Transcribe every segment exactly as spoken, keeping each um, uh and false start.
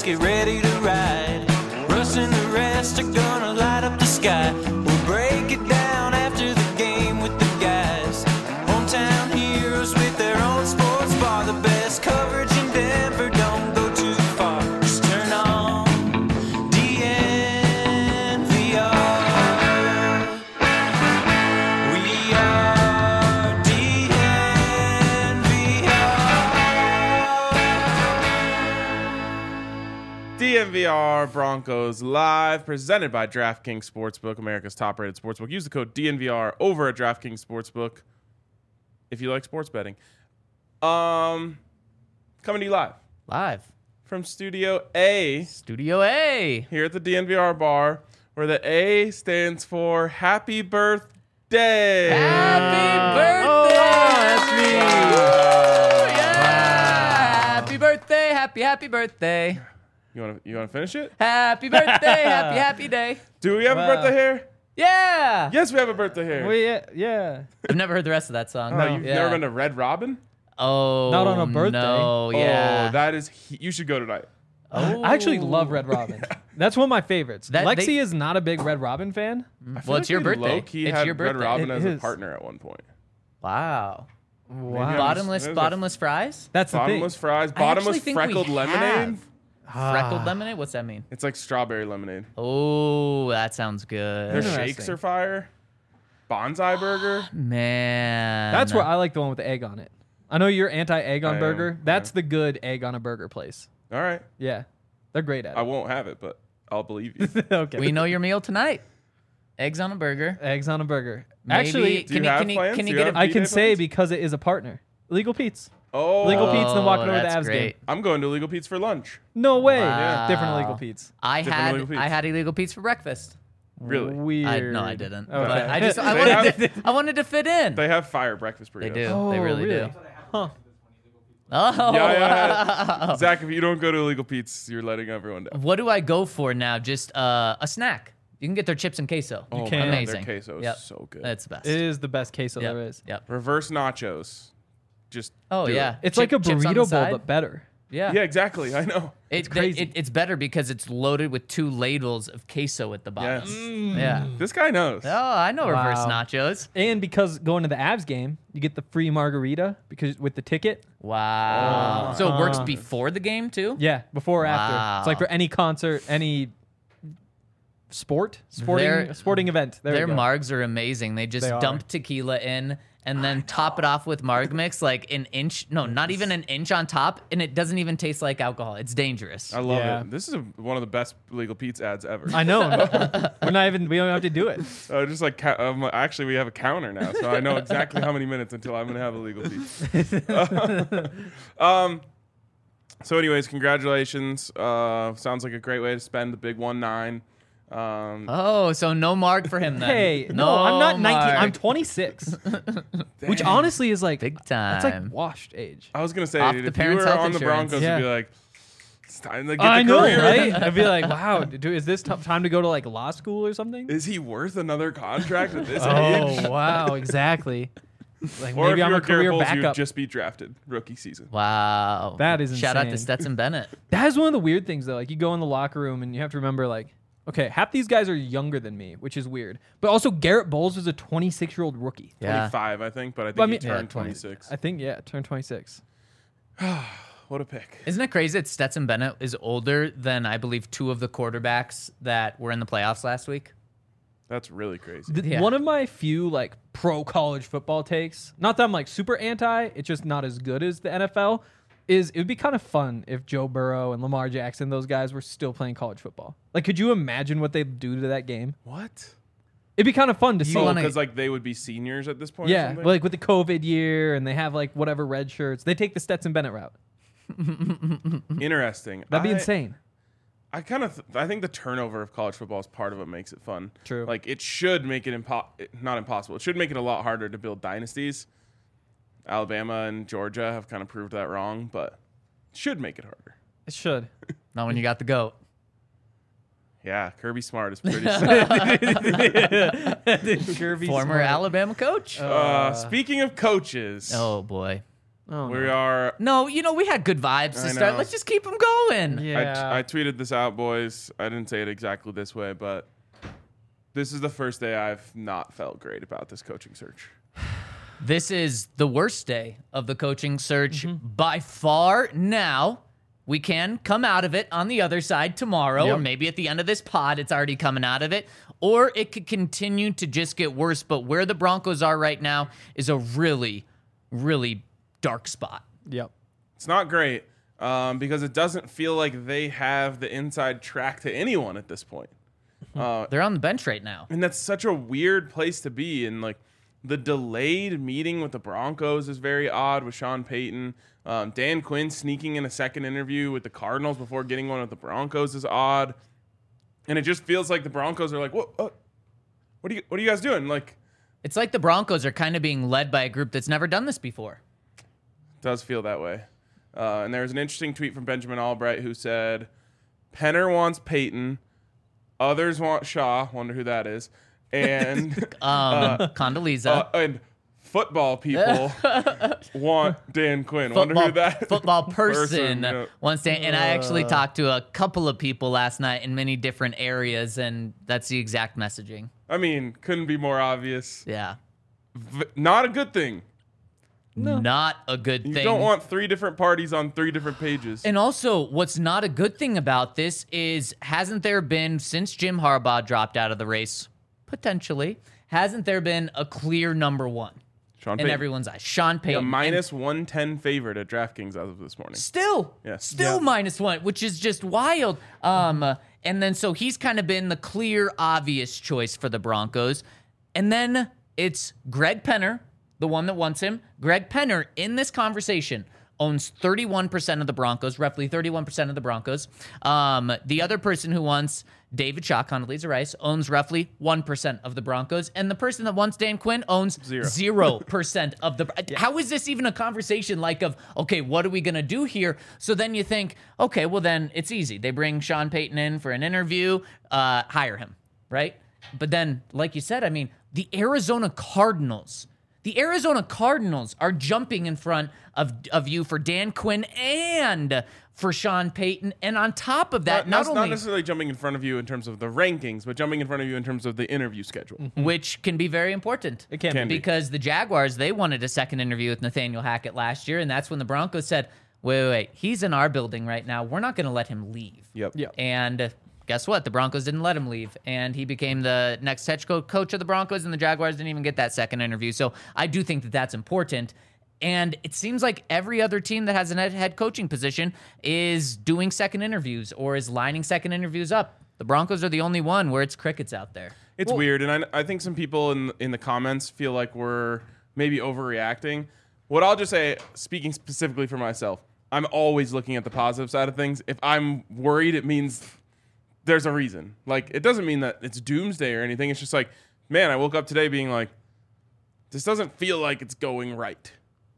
get ready to ride. Russ and the rest are gonna light up the sky. We'll break it down after the game with the guys. Hometown heroes with their own sports bar. The best coverage in Denver, don't go too far. Just turn on D N V R. We are D N V R. D N V R Broncos Live, presented by DraftKings Sportsbook, America's top-rated sportsbook. Use the code D N V R over at DraftKings Sportsbook if you like sports betting. Um, coming to you live Live. from Studio A Studio A. here at the D N V R bar, where the A stands for Happy Birthday. Happy birthday! Oh, that's me. Yeah! Happy birthday! Happy happy birthday! You want to you want to finish it? Happy birthday! Happy happy day! Do we have Wow. a birthday here? Yeah! Yes, we have a birthday here. Well, yeah, yeah. I've never heard the rest of that song. No, you've Yeah. never been to Red Robin? Oh, Not on a birthday. No, yeah. Oh, that is. He- you should go tonight. Oh. I actually love Red Robin. That's one of my favorites. That- Lexi they- is not a big Red Robin fan. I feel Well, it's your we birthday. Low-key It's had your Red birthday. Robin It as a is. partner at one point. Wow. Wow. Bottomless, There's a- bottomless fries? That's the Bottomless thing. fries, I bottomless actually think we freckled lemonade. have. Ah. Freckled lemonade? What's that mean? It's like strawberry lemonade. Oh, that sounds good. Their Interesting. shakes are fire. Bonsai burger. Man. That's where I like the one with the egg on it. I know you're anti-egg I on am, burger. That's yeah. the good egg on a burger place. All right. Yeah, they're great at I it. won't have it, but I'll believe you. Okay. We know your meal tonight. Eggs on a burger. Eggs on a burger. Maybe- Actually, Do you Can you- have can you- plans? can you Do get have it- I B-Day can say plans? because it is a partner. Legal Pete's. Oh, Legal Pete's, then walking Oh, over to the that's Avs game. great. I'm going to Legal Pete's for lunch. No way. Wow. Different Legal Pete's. I Different had Illegal Pete's. I had illegal Pete's for breakfast. Really? Weird. I no, I didn't. Okay. But I just I They wanted have- to, I wanted to fit in. They have fire breakfast burritos. They do. Oh, they really, do. Huh. Oh, Yeah, yeah, wow. yeah. Zach, if you don't go to Legal Pete's, you're letting everyone down. What do I go for now? Just uh, a snack. You can get their chips and queso. Oh, can. man, Amazing. Their queso is Yep. so good. That's the best. It is the best queso Yep. there is. Yep. Reverse nachos. Just Oh do yeah. it. It's Chip- like a chips on the burrito bowl, side. but better. Yeah. Yeah, exactly. I know. It, they- crazy. it- it's better because it's loaded with two ladles of queso at the bottom. Yes. Yeah. This guy knows. Oh, I know reverse Wow. nachos. And because going to the Avs game, you get the free margarita because with the ticket. Wow. So it works Uh. before the game too? Yeah, before or after. It's like Wow. for any concert, any sport, sporting Their- sporting event. There Their you go. margs are amazing. They just They are. dump tequila in and then top it off with marg mix like an inch, no, not even an inch on top, and it doesn't even taste like alcohol. It's dangerous. I love Yeah. it. This is a, one of the best Legal Pete's ads ever. I know. We're not even. We don't have to do it. Uh, just like ca- um, actually, we have a counter now, so I know exactly how many minutes until I'm gonna have a Legal Pete's. um. So, anyways, congratulations. Uh, sounds like a great way to spend the big one nine. Um, Oh, so no marg for him then. Hey, no, I'm not nineteen. I'm marg. twenty-six, which honestly is like Big That's like time. washed age. I was gonna say, Off dude, the if you parents' were health on the insurance. Broncos, Yeah. you'd be like, it's time to get I the know, career. right? I'd be like, wow, dude, is this t- time to go to like law school or something? Is he worth another contract at this age? Oh wow, exactly. Like Or maybe if I'm you a were career careful, you'd backup. just be drafted rookie season. Wow. That is Shout out to insane. Stetson Bennett. That is one of the weird things though. Like you go in the locker room and you have to remember like, okay, half these guys are younger than me, which is weird. But also Garrett Bowles is a twenty-six year old rookie. Yeah. twenty-five, I think, but I think But I he mean- turned Yeah, twenty. twenty-six. I think yeah, turned twenty-six. What a pick. Isn't it crazy that Stetson Bennett is older than I believe two of the quarterbacks that were in the playoffs last week? That's really crazy. The- Yeah. One of my few like pro college football takes, not that I'm like super anti, it's just not as good as the N F L, is it would be kind of fun if Joe Burrow and Lamar Jackson, those guys were still playing college football. Like, could you imagine what they'd do to that game? What? It'd be kind of fun to see. Oh, wanna- because like they would be seniors at this point. or yeah, something? like with the COVID year and they have like whatever red shirts. They take the Stetson Bennett route. Interesting. That'd be I- insane. I kind of, th- I think the turnover of college football is part of what makes it fun. True. Like it should make it impo- not impossible. It should make it a lot harder to build dynasties. Alabama and Georgia have kind of proved that wrong, but it should make it harder. It should. Not when you got the GOAT. Yeah, Kirby Smart is pretty. sick. Kirby Former Smart. Alabama coach. uh, speaking of coaches, Oh boy. Oh, we no. are. No, you know, we had good vibes to I start. know. Let's just keep them going. Yeah. I, I tweeted this out, boys. I didn't say it exactly this way, but this is the first day I've not felt great about this coaching search. This is the worst day of the coaching search by far. Now, we can come out of it on the other side tomorrow, Yep. or maybe at the end of this pod, it's already coming out of it, or it could continue to just get worse. But where the Broncos are right now is a really, really dark spot. Yep. It's not great um, because it doesn't feel like they have the inside track to anyone at this point. Uh, They're on the bench right now. and that's such a weird place to be. And like the delayed meeting with the Broncos is very odd with Sean Payton. Um, Dan Quinn sneaking in a second interview with the Cardinals before getting one with the Broncos is odd. And it just feels like the Broncos are like, what, what, what are you, what are you guys doing? Like, It's like the Broncos are kind of being led by a group that's never done this before. does feel that way. Uh, and there was an interesting tweet from Benjamin Albright who said, Penner wants Peyton, others want Shaw, wonder who that is, and Um, Condoleezza. uh, and football people want Dan Quinn. Wonder football, who that football person, yeah. wants to, and I actually talked to a couple of people last night in many different areas, and that's the exact messaging. I mean, couldn't be more obvious. Yeah. V- not a good thing. Not a good You thing. don't want three different parties on three different pages. And also, what's not a good thing about this is, hasn't there been, since Jim Harbaugh dropped out of the race, potentially, hasn't there been a clear number one Sean in Payton, everyone's eyes? Sean Payton. a And minus one ten favorite at DraftKings as of this morning. Still, Yeah. still Yeah. minus one, which is just wild. Um, uh, and then so he's kind of been the clear, obvious choice for the Broncos. And then it's Greg Penner, the one that wants him. Greg Penner, in this conversation, owns thirty-one percent of the Broncos, roughly thirty-one percent of the Broncos. Um, the other person who wants David Shaw, Condoleezza Rice, owns roughly one percent of the Broncos. And the person that wants Dan Quinn owns Zero. zero percent of the... How is this even a conversation like of, okay, what are we going to do here? So then you think, okay, well then it's easy. They bring Sean Payton in for an interview, uh, hire him, right? But then, like you said, I mean, the Arizona Cardinals... The Arizona Cardinals are jumping in front of, of you for Dan Quinn and for Sean Payton. And on top of that, not, not, not only... necessarily jumping in front of you in terms of the rankings, but jumping in front of you in terms of the interview schedule. which can be very important. It can, Can be. be. Because the Jaguars, they wanted a second interview with Nathaniel Hackett last year, and that's when the Broncos said, wait, wait, wait, he's in our building right now. We're not going to let him leave. Yep. Yeah. And guess what? The Broncos didn't let him leave, and he became the next head co- coach of the Broncos, and the Jaguars didn't even get that second interview. So I do think that that's important. And it seems like every other team that has a head- head coaching position is doing second interviews or is lining second interviews up. The Broncos are the only one where it's crickets out there. It's weird, and I, I think some people in in the comments feel like we're maybe overreacting. What I'll just say, speaking specifically for myself, I'm always looking at the positive side of things. If I'm worried, it means there's a reason. Like, it doesn't mean that it's doomsday or anything. It's just like, man, I woke up today being like, this doesn't feel like it's going right.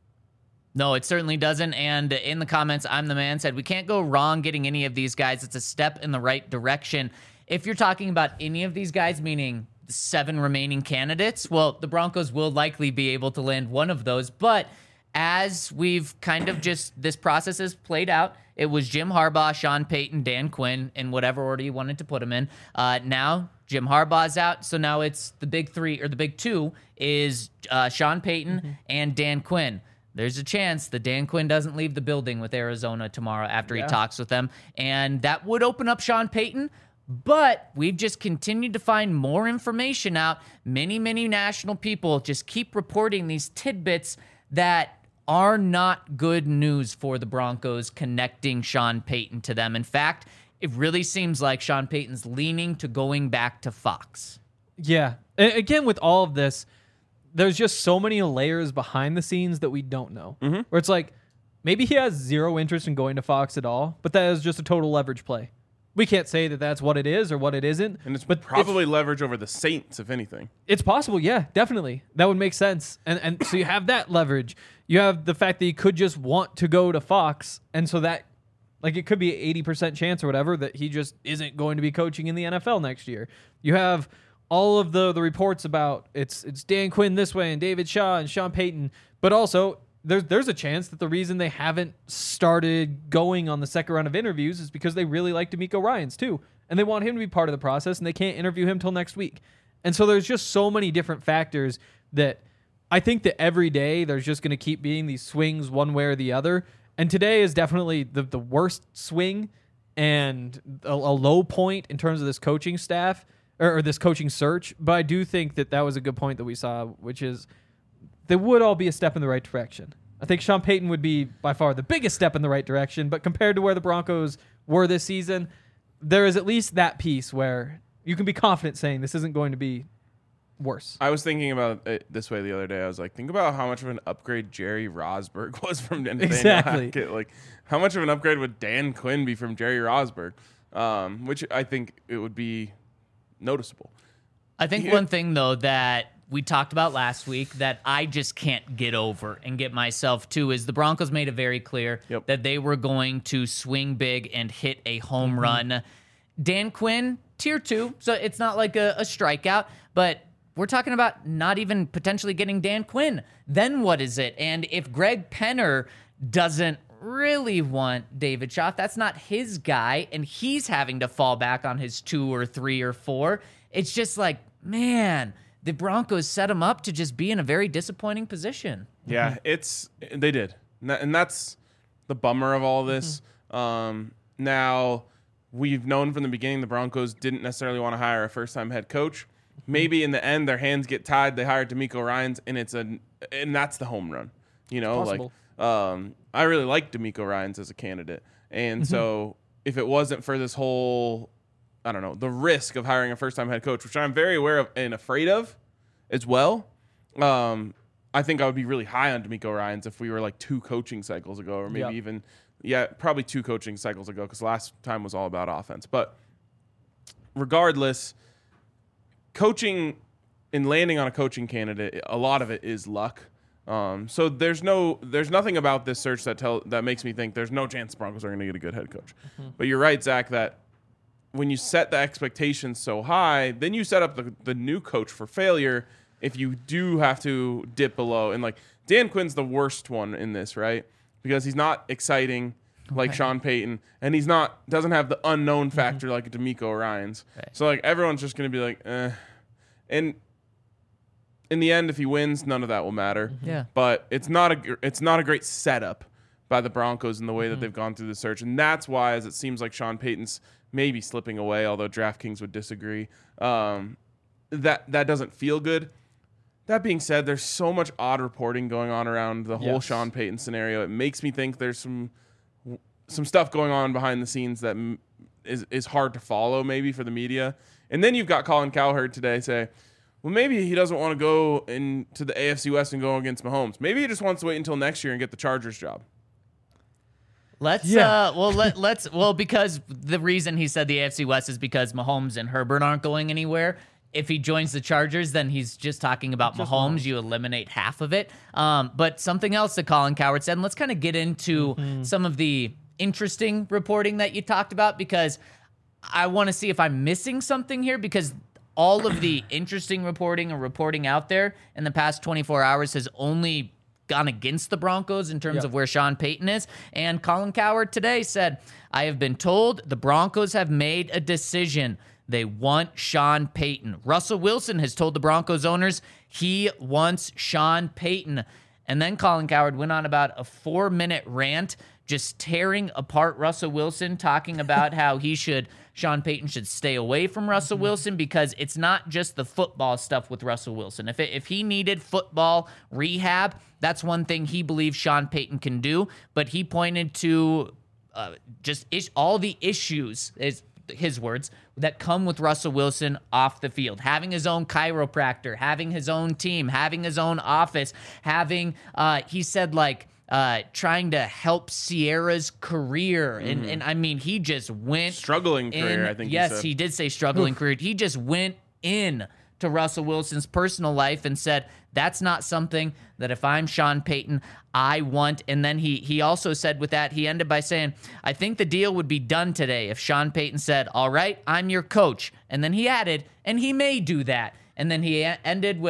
No, it certainly doesn't. And in the comments, I'm the man said, we can't go wrong getting any of these guys. It's a step in the right direction. If you're talking about any of these guys, meaning the seven remaining candidates, well, the Broncos will likely be able to land one of those. But as we've kind of just, this process has played out, it was Jim Harbaugh, Sean Payton, Dan Quinn, in whatever order you wanted to put them in. Uh, now, Jim Harbaugh's out, so now it's the big three, or the big two, is uh, Sean Payton mm-hmm. and Dan Quinn. There's a chance that Dan Quinn doesn't leave the building with Arizona tomorrow after Yeah. he talks with them, and that would open up Sean Payton. But we've just continued to find more information out. Many, many national people just keep reporting these tidbits that are not good news for the Broncos, connecting Sean Payton to them. In fact, it really seems like Sean Payton's leaning to going back to Fox. Yeah. A- Again, with all of this, there's just so many layers behind the scenes that we don't know. Mm-hmm. Where it's like, maybe he has zero interest in going to Fox at all, but that is just a total leverage play. We can't say that that's what it is or what it isn't. And it's but probably leverage over the Saints, if anything. It's possible, yeah, definitely. That would make sense. And and so you have that leverage. You have the fact that he could just want to go to Fox, and so that, like, it could be an eighty percent chance or whatever that he just isn't going to be coaching in the N F L next year. You have all of the the reports about it's it's Dan Quinn this way and David Shaw and Sean Payton, but also there's there's a chance that the reason they haven't started going on the second round of interviews is because they really like D'Amico Ryans too, and they want him to be part of the process, and they can't interview him till next week. And so there's just so many different factors that I think that every day there's just going to keep being these swings one way or the other. And today is definitely the the worst swing and a, a low point in terms of this coaching staff or, or this coaching search. But I do think that that was a good point that we saw, which is they would all be a step in the right direction. I think Sean Payton would be by far the biggest step in the right direction, but compared to where the Broncos were this season, there is at least that piece where you can be confident saying this isn't going to be worse. I was thinking about it this way the other day. I was like, think about how much of an upgrade Jerry Rosburg was from Nathaniel Exactly. Hackett. Like, how much of an upgrade would Dan Quinn be from Jerry Rosburg? Um, which I think it would be noticeable. I think Yeah. one thing, though, that we talked about last week that I just can't get over and get myself to is the Broncos made it very clear Yep. that they were going to swing big and hit a home run. Dan Quinn, tier two, so it's not like a, a strikeout, but we're talking about not even potentially getting Dan Quinn. Then what is it? And if Greg Penner doesn't really want David Shaw, that's not his guy, and he's having to fall back on his two or three or four, it's just like, man, the Broncos set him up to just be in a very disappointing position. Yeah, it's they did, and that- and that's the bummer of all this. Um, now, we've known from the beginning the Broncos didn't necessarily want to hire a first-time head coach. Maybe in the end their hands get tied. They hire D'Amico Ryans, and it's a and that's the home run. You know, Possible. like um, I really like D'Amico Ryans as a candidate, and so if it wasn't for this whole, I don't know, the risk of hiring a first-time head coach, which I'm very aware of and afraid of as well. Um, I think I would be really high on D'Amico Ryans if we were like two coaching cycles ago, or maybe Yep. even, yeah, probably two coaching cycles ago, because last time was all about offense. But regardless, coaching and landing on a coaching candidate, a lot of it is luck. Um, so there's no, there's nothing about this search that tell that makes me think there's no chance the Broncos are going to get a good head coach. But you're right, Zach, that when you set the expectations so high, then you set up the, the new coach for failure if you do have to dip below. And like Dan Quinn's the worst one in this, right? Because he's not exciting like Right. Sean Payton, and he's not doesn't have the unknown factor like D'Amico Ryans. Right. So like everyone's just going to be like, eh. And in the end, if he wins, none of that will matter. Yeah. But it's not a gr- it's not a great setup by the Broncos in the way that they've gone through the search, and that's why, as it seems like Sean Payton's maybe slipping away, although DraftKings would disagree. Um, that that doesn't feel good. That being said, there's so much odd reporting going on around the whole Yes. Sean Payton scenario. It makes me think there's some some stuff going on behind the scenes that m- is is hard to follow, maybe for the media. And then you've got Colin Cowherd today say, well, maybe he doesn't want to go into the A F C West and go against Mahomes. Maybe he just wants to wait until next year and get the Chargers job. Let's Yeah. uh well let let's well because the reason he said the A F C West is because Mahomes and Herbert aren't going anywhere. If he joins the Chargers, then he's just talking about Just Mahomes. Mahomes. You eliminate half of it. Um, but something else that Colin Cowherd said, and let's kind of get into some of the interesting reporting that you talked about, because I want to see if I'm missing something here, because all of the interesting reporting and reporting out there in the past twenty-four hours has only gone against the Broncos in terms Yep. of where Sean Payton is. And Colin Cowherd today said, I have been told the Broncos have made a decision. They want Sean Payton. Russell Wilson has told the Broncos owners he wants Sean Payton. And then Colin Cowherd went on about a four-minute rant just tearing apart Russell Wilson, talking about how he should, Sean Payton should stay away from Russell Wilson, because it's not just the football stuff with Russell Wilson. If it, if he needed football rehab, that's one thing he believes Sean Payton can do. But he pointed to uh, just is, all the issues, is his words, that come with Russell Wilson off the field. Having his own chiropractor, having his own team, having his own office, having, uh, he said, like, uh, trying to help Sierra's career. And, and I mean, he just went Struggling career, in- I think he Yes, said. he did say struggling career. He just went in to Russell Wilson's personal life and said, that's not something that if I'm Sean Payton, I want. And then he he also said with that, he ended by saying, I think the deal would be done today if Sean Payton said, all right, I'm your coach. And then he added, and he may do that. And then he a- ended with,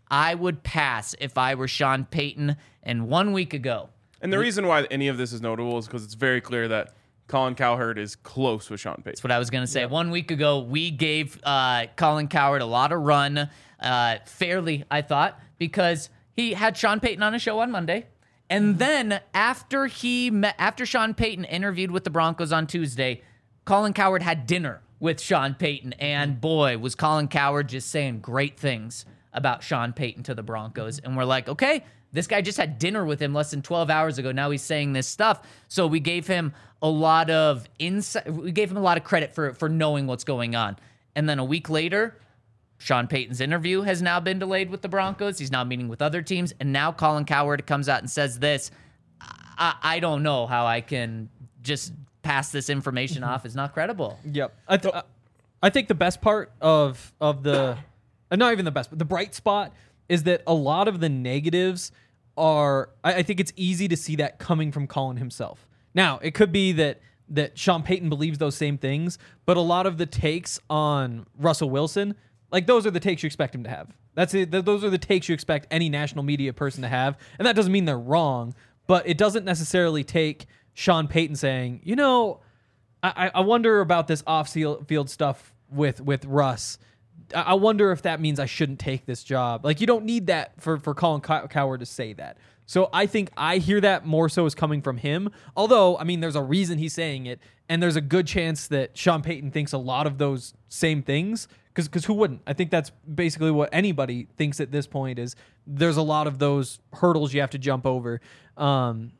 I would pass if I were Sean Payton. And one week ago, And the reason why any of this is notable is because it's very clear that Colin Cowherd is close with Sean Payton. that's what I was going to say. One week ago, we gave uh, Colin Cowherd a lot of run, uh, fairly, I thought, because he had Sean Payton on a show on Monday. And then after he met, after Sean Payton interviewed with the Broncos on Tuesday, Colin Cowherd had dinner with Sean Payton. And boy, was Colin Cowherd just saying great things about Sean Payton to the Broncos. And we're like, okay, this guy just had dinner with him less than twelve hours ago. Now he's saying this stuff. So we gave him a lot of insight. We gave him a lot of credit for, for knowing what's going on. And then a week later, Sean Payton's interview has now been delayed with the Broncos. He's now meeting with other teams. And now Colin Cowherd comes out and says this. I, I don't know how I can just pass this information off as not credible. Yep. I, th- I think the best part of of the, uh, not even the best, but the bright spot is that a lot of the negatives are, I, I think it's easy to see that coming from Colin himself. Now, it could be that that Sean Payton believes those same things, but a lot of the takes on Russell Wilson, like those are the takes you expect him to have. That's it. Th- those are the takes you expect any national media person to have. And that doesn't mean they're wrong, but it doesn't necessarily take Sean Payton saying, you know, I, I wonder about this off-field stuff with, with Russ. I wonder if that means I shouldn't take this job. Like, you don't need that for, for Colin Cow- Cowherd to say that. So I think I hear that more so as coming from him. Although, I mean, there's a reason he's saying it, and there's a good chance that Sean Payton thinks a lot of those same things. Because who wouldn't? I think that's basically what anybody thinks at this point is there's a lot of those hurdles you have to jump over. Um,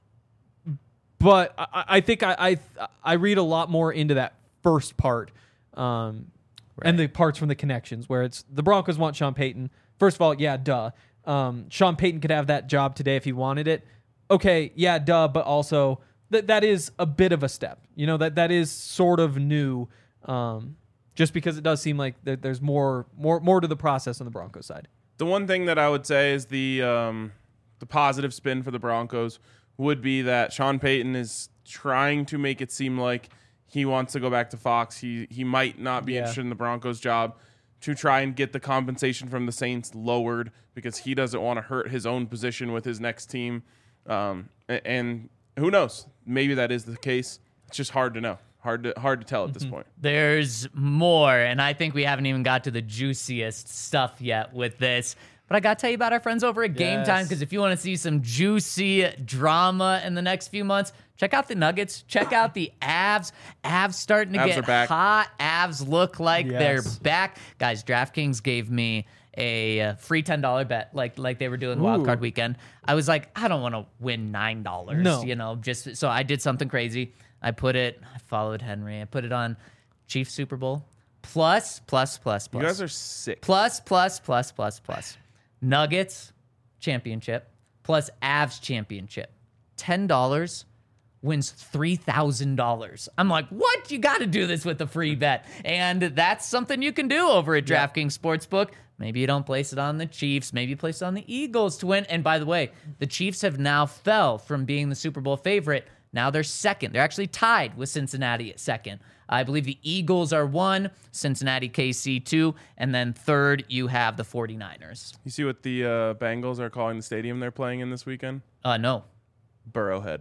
but I, I think I, I I read a lot more into that first part. Um Right. And the parts from the connections where it's the Broncos want Sean Payton. First of all, yeah, duh. Um, Sean Payton could have that job today if he wanted it. Okay, yeah, duh, but also that that is a bit of a step. You know, that that is sort of new, um, just because it does seem like there, there's more more more to the process on the Broncos side. The one thing that I would say is the um, the positive spin for the Broncos would be that Sean Payton is trying to make it seem like he wants to go back to Fox. He he might not be Yeah. interested in the Broncos job to try and get the compensation from the Saints lowered because he doesn't want to hurt his own position with his next team. Um, and, and who knows? Maybe that is the case. It's just hard to know. Hard to hard to tell at this point. There's more, and I think we haven't even got to the juiciest stuff yet with this. But I got to tell you about our friends over at Game Yes. Time, because if you want to see some juicy drama in the next few months, check out the Nuggets. Check out the Avs. Avs starting to Avs get are back. hot. Avs look like Yes. they're back. Guys, DraftKings gave me a uh, free ten dollars bet like like they were doing Wild Ooh. Card Weekend. I was like, I don't want to win nine dollars, No. you know, just so I did something crazy. I put it, I followed Henry. I put it on Chiefs Super Bowl. Plus, plus, plus, plus. You guys are sick. Plus, plus, plus, plus, plus. Nuggets championship plus Avs championship. ten dollars wins three thousand dollars. I'm like, what? You got to do this with a free bet. And that's something you can do over at DraftKings Sportsbook. Maybe you don't place it on the Chiefs. Maybe you place it on the Eagles to win. And by the way, the Chiefs have now fell from being the Super Bowl favorite. Now they're second. They're actually tied with Cincinnati at second. I believe the Eagles are one, Cincinnati K C two, and then third you have the 49ers. You see what the uh, Bengals are calling the stadium they're playing in this weekend? Uh, no. Burrowhead.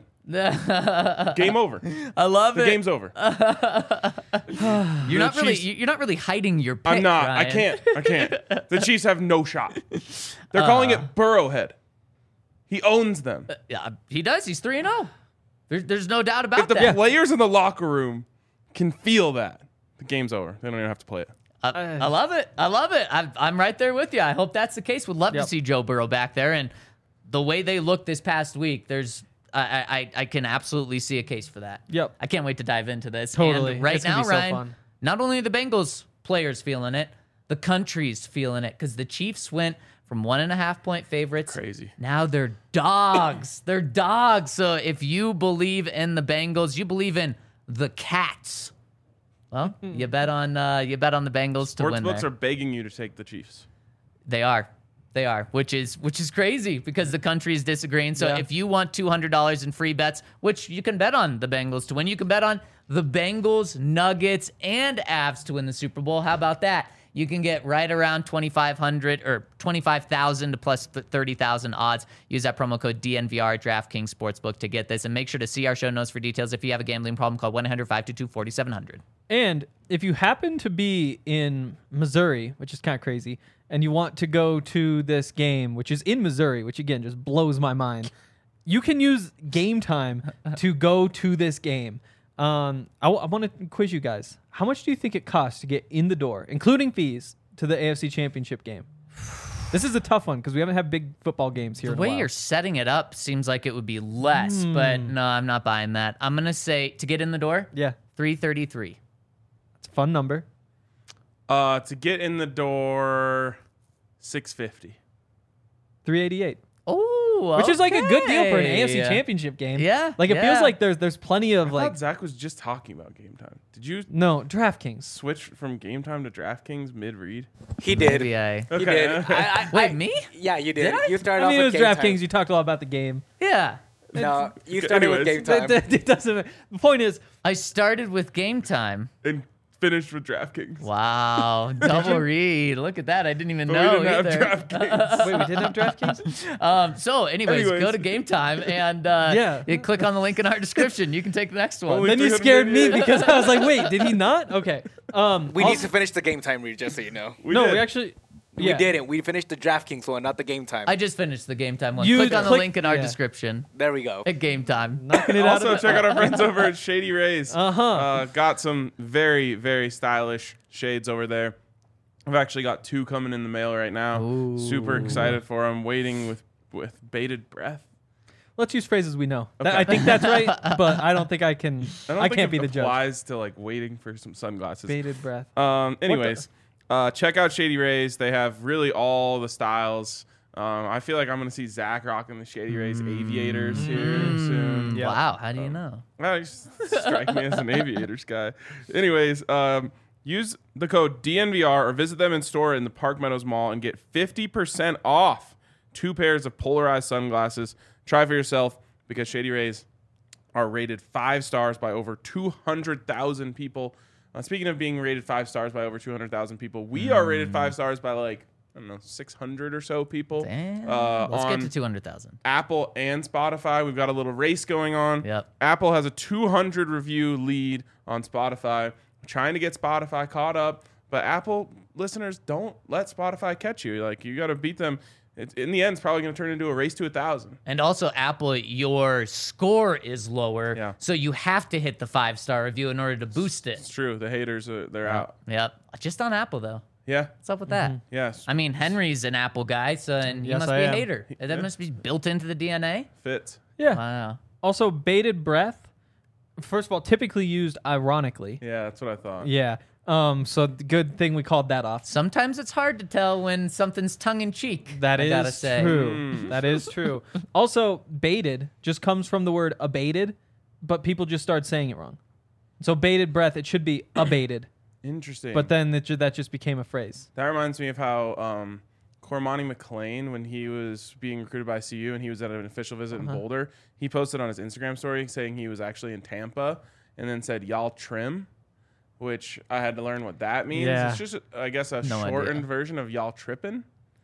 Game over. I love The it. game's over. You're not The really Chiefs- you're not really hiding your pick, I'm not. I Ryan. can't. I can't. The Chiefs have no shot. They're calling it Burrowhead. He owns them. Yeah, he does. He's three and oh. There's there's no doubt about If the that. players in the locker room can feel that, the game's over. They don't even have to play it. I, I love it. I love it. I'm, I'm right there with you. I hope that's the case. Would love Yep. to see Joe Burrow back there. And the way they looked this past week, there's I, I I can absolutely see a case for that. Yep. I can't wait to dive into this. Totally. And right It's gonna now, be so Ryan, fun. not only are the Bengals players feeling it, the country's feeling it because the Chiefs went from one and a half point favorites. Crazy. Now they're dogs. They're dogs. So if you believe in the Bengals, you believe in the Cats. Well, you bet on uh, you bet on the Bengals to win Sportsbooks there. are begging you to take the Chiefs. They are. They are, which is which is crazy because the country is disagreeing. So Yeah. if you want two hundred dollars in free bets, which you can bet on the Bengals to win, you can bet on the Bengals, Nuggets, and Avs to win the Super Bowl. How about that? you can get right around twenty-five hundred or twenty-five thousand to plus thirty thousand odds. Use that promo code D N V R at DraftKings Sportsbook to get this. And make sure to see our show notes for details. If you have a gambling problem, call one eight hundred five two two four seven zero zero. And if you happen to be in Missouri, which is kind of crazy, and you want to go to this game, which is in Missouri, which again just blows my mind, you can use Game Time to go to this game. Um, I, w- I want to quiz you guys. How much do you think it costs to get in the door, including fees, to the A F C Championship game? This is a tough one because we haven't had big football games here. The in a way while. you're setting it up seems like it would be less, Hmm. but no, I'm not buying that. I'm going to say to get in the door, Yeah, three thirty-three. it's a fun number. Uh, to get in the door, six fifty. three eighty-eight. Oh, Which is like a good deal for an okay. A F C Championship game. Yeah, Like it yeah. feels like there's there's plenty I of like thought Zach was just talking about Game Time. Did you no DraftKings. switch from Game Time to DraftKings mid-read? He did. Maybe I. He did. I, I, Wait, I, me? Yeah, you did. Did I? You started I off mean, it with was Game DraftKings. Time. You talked a lot about the game. Yeah. No, you started with Anyways. Game Time. It, it doesn't. The point is, I started with Game Time. And finished with DraftKings. Wow, double read. Look at that. I didn't even But know we didn't either. have DraftKings. wait, we didn't have DraftKings. Um, so, anyways, Anyways. go to Game Time and uh, Yeah. you click on the link in our description. You can take the next one. Only Then you scared me three hundred because I was like, wait, did he not? Okay. Um, We need also- to finish the Game Time read, just so you know. We no, did. we actually. Yeah. We didn't. We finished the DraftKings one, not the Game Time. I just finished the Game Time one. You click on the click- link in our yeah. description there we go. at Game Time. Knocking it out. Also, Of check out our friends over at Shady Rays. Uh-huh. Uh, got some very, very stylish shades over there. I've actually got two coming in the mail right now. Super excited for them. Waiting with, with bated breath. Let's use phrases we know. That- Okay. I think that's right, but I don't think I can. I, don't I think can't it be the judge. applies to like waiting for some sunglasses. Bated breath. Um, anyways, uh, check out Shady Rays. They have really all the styles. Um, I feel like I'm going to see Zach rocking the Shady Rays Aviators here soon. Yeah. Wow, how do you know? Well, you just strike me as an Aviators guy. Anyways, um, use the code D N V R or visit them in store in the Park Meadows Mall and get fifty percent off two pairs of polarized sunglasses. Try for yourself because Shady Rays are rated five stars by over two hundred thousand people. Uh, speaking of being rated five stars by over two hundred thousand people, we are rated five stars by like, I don't know, six hundred or so people. Damn. Uh, Let's on get to two hundred thousand. Apple and Spotify. We've got a little race going on. Yep. Apple has a two hundred review lead on Spotify. We're trying to get Spotify caught up, but Apple listeners, don't let Spotify catch you. Like, you got to beat them. It, in the end, it's probably going to turn into a race to a thousand. And also, Apple, your score is lower, Yeah. so you have to hit the five star review in order to boost it. It's true. The haters, are, they're out. Yep. Just on Apple, though. Yeah. What's up with that? Yes. I mean, Henry's an Apple guy, so and he Yes, must I be a am. hater. That must be built into the D N A. Fits. Yeah. Wow. Also, bated breath. First of all, typically used ironically. Yeah, that's what I thought. Yeah. Um. So th- good thing we called that off. Sometimes it's hard to tell when something's tongue in cheek. That I is gotta say. true. That is true. Also, baited just comes from the word abated, but people just start saying it wrong. So bated breath, it should be abated, Interesting. but then it ju- that just became a phrase. That reminds me of how um, Cormani McLean, when he was being recruited by C U and he was at an official visit Uh-huh. in Boulder, he posted on his Instagram story saying he was actually in Tampa and then said, y'all trim, which I had to learn what that means. Yeah. It's just, I guess, a No shortened idea. version of y'all tripping.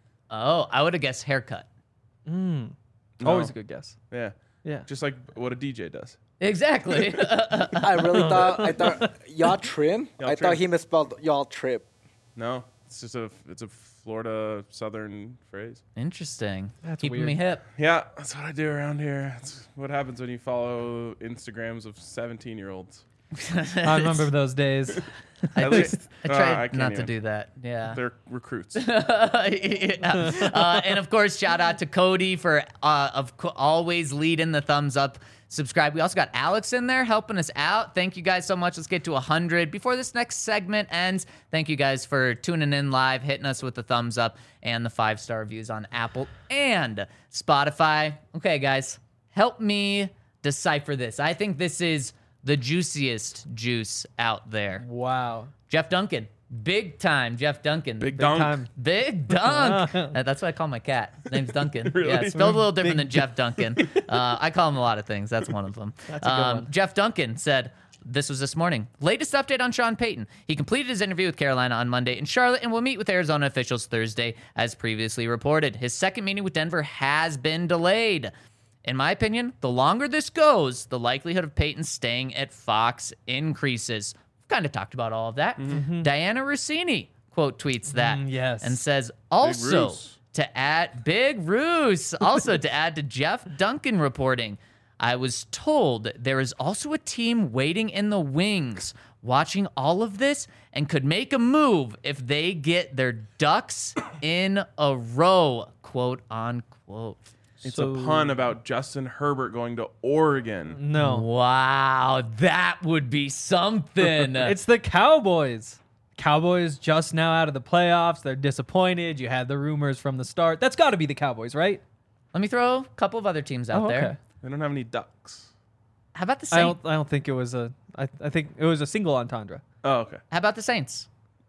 Oh, I would have guessed haircut. Mm. No. Always a good guess. Yeah. Yeah. Just like what a D J does. Exactly. I really thought I thought y'all trim. Y'all I trim. thought he misspelled y'all trip. No, it's just a, it's a Florida Southern phrase. Interesting. That's Keeping weird. me hip. Yeah, that's what I do around here. That's what happens when you follow Instagrams of seventeen-year-olds. I remember those days. I, At tr- least- I uh, tried I can't not to even. do that. Yeah. They're recruits. Yeah. Uh, and of course, shout out to Cody for uh, of co- always leading the thumbs up. Subscribe. We also got Alex in there helping us out. Thank you guys so much. Let's get to one hundred before this next segment ends. Thank you guys for tuning in live, hitting us with the thumbs up and the five star reviews on Apple and Spotify. Okay, guys, help me decipher this. I think this is the juiciest juice out there. Wow. Jeff Duncan. Big time Jeff Duncan. Big Big dunk. time. Big Dunk. Uh, That's what I call my cat. His name's Duncan. Really? Yeah, it's spelled a little different than Jeff Duncan. Uh, I call him a lot of things. That's one of them. That's a good um, one. Jeff Duncan said, this was this morning. Latest update on Sean Payton. He completed his interview with Carolina on Monday in Charlotte and will meet with Arizona officials Thursday, as previously reported. His second meeting with Denver has been delayed. In my opinion, the longer this goes, the likelihood of Payton staying at Fox increases. We've kind of talked about all of that. Mm-hmm. Diana Rossini quote tweets that Mm, yes. and says, also Roos. to add, Big Roos, also to add to Jeff Duncan reporting, I was told there is also a team waiting in the wings watching all of this and could make a move if they get their ducks in a row, quote unquote. It's So- a pun about Justin Herbert going to Oregon. No. Wow, that would be something. It's the Cowboys. Cowboys just now out of the playoffs. They're disappointed. You had the rumors from the start. That's got to be the Cowboys, right? Let me throw a couple of other teams out Oh, there. okay. They don't have any ducks. How about the I Saints? don't. I don't think it was a. I, I think it was a single entendre. Oh, okay. How about the Saints?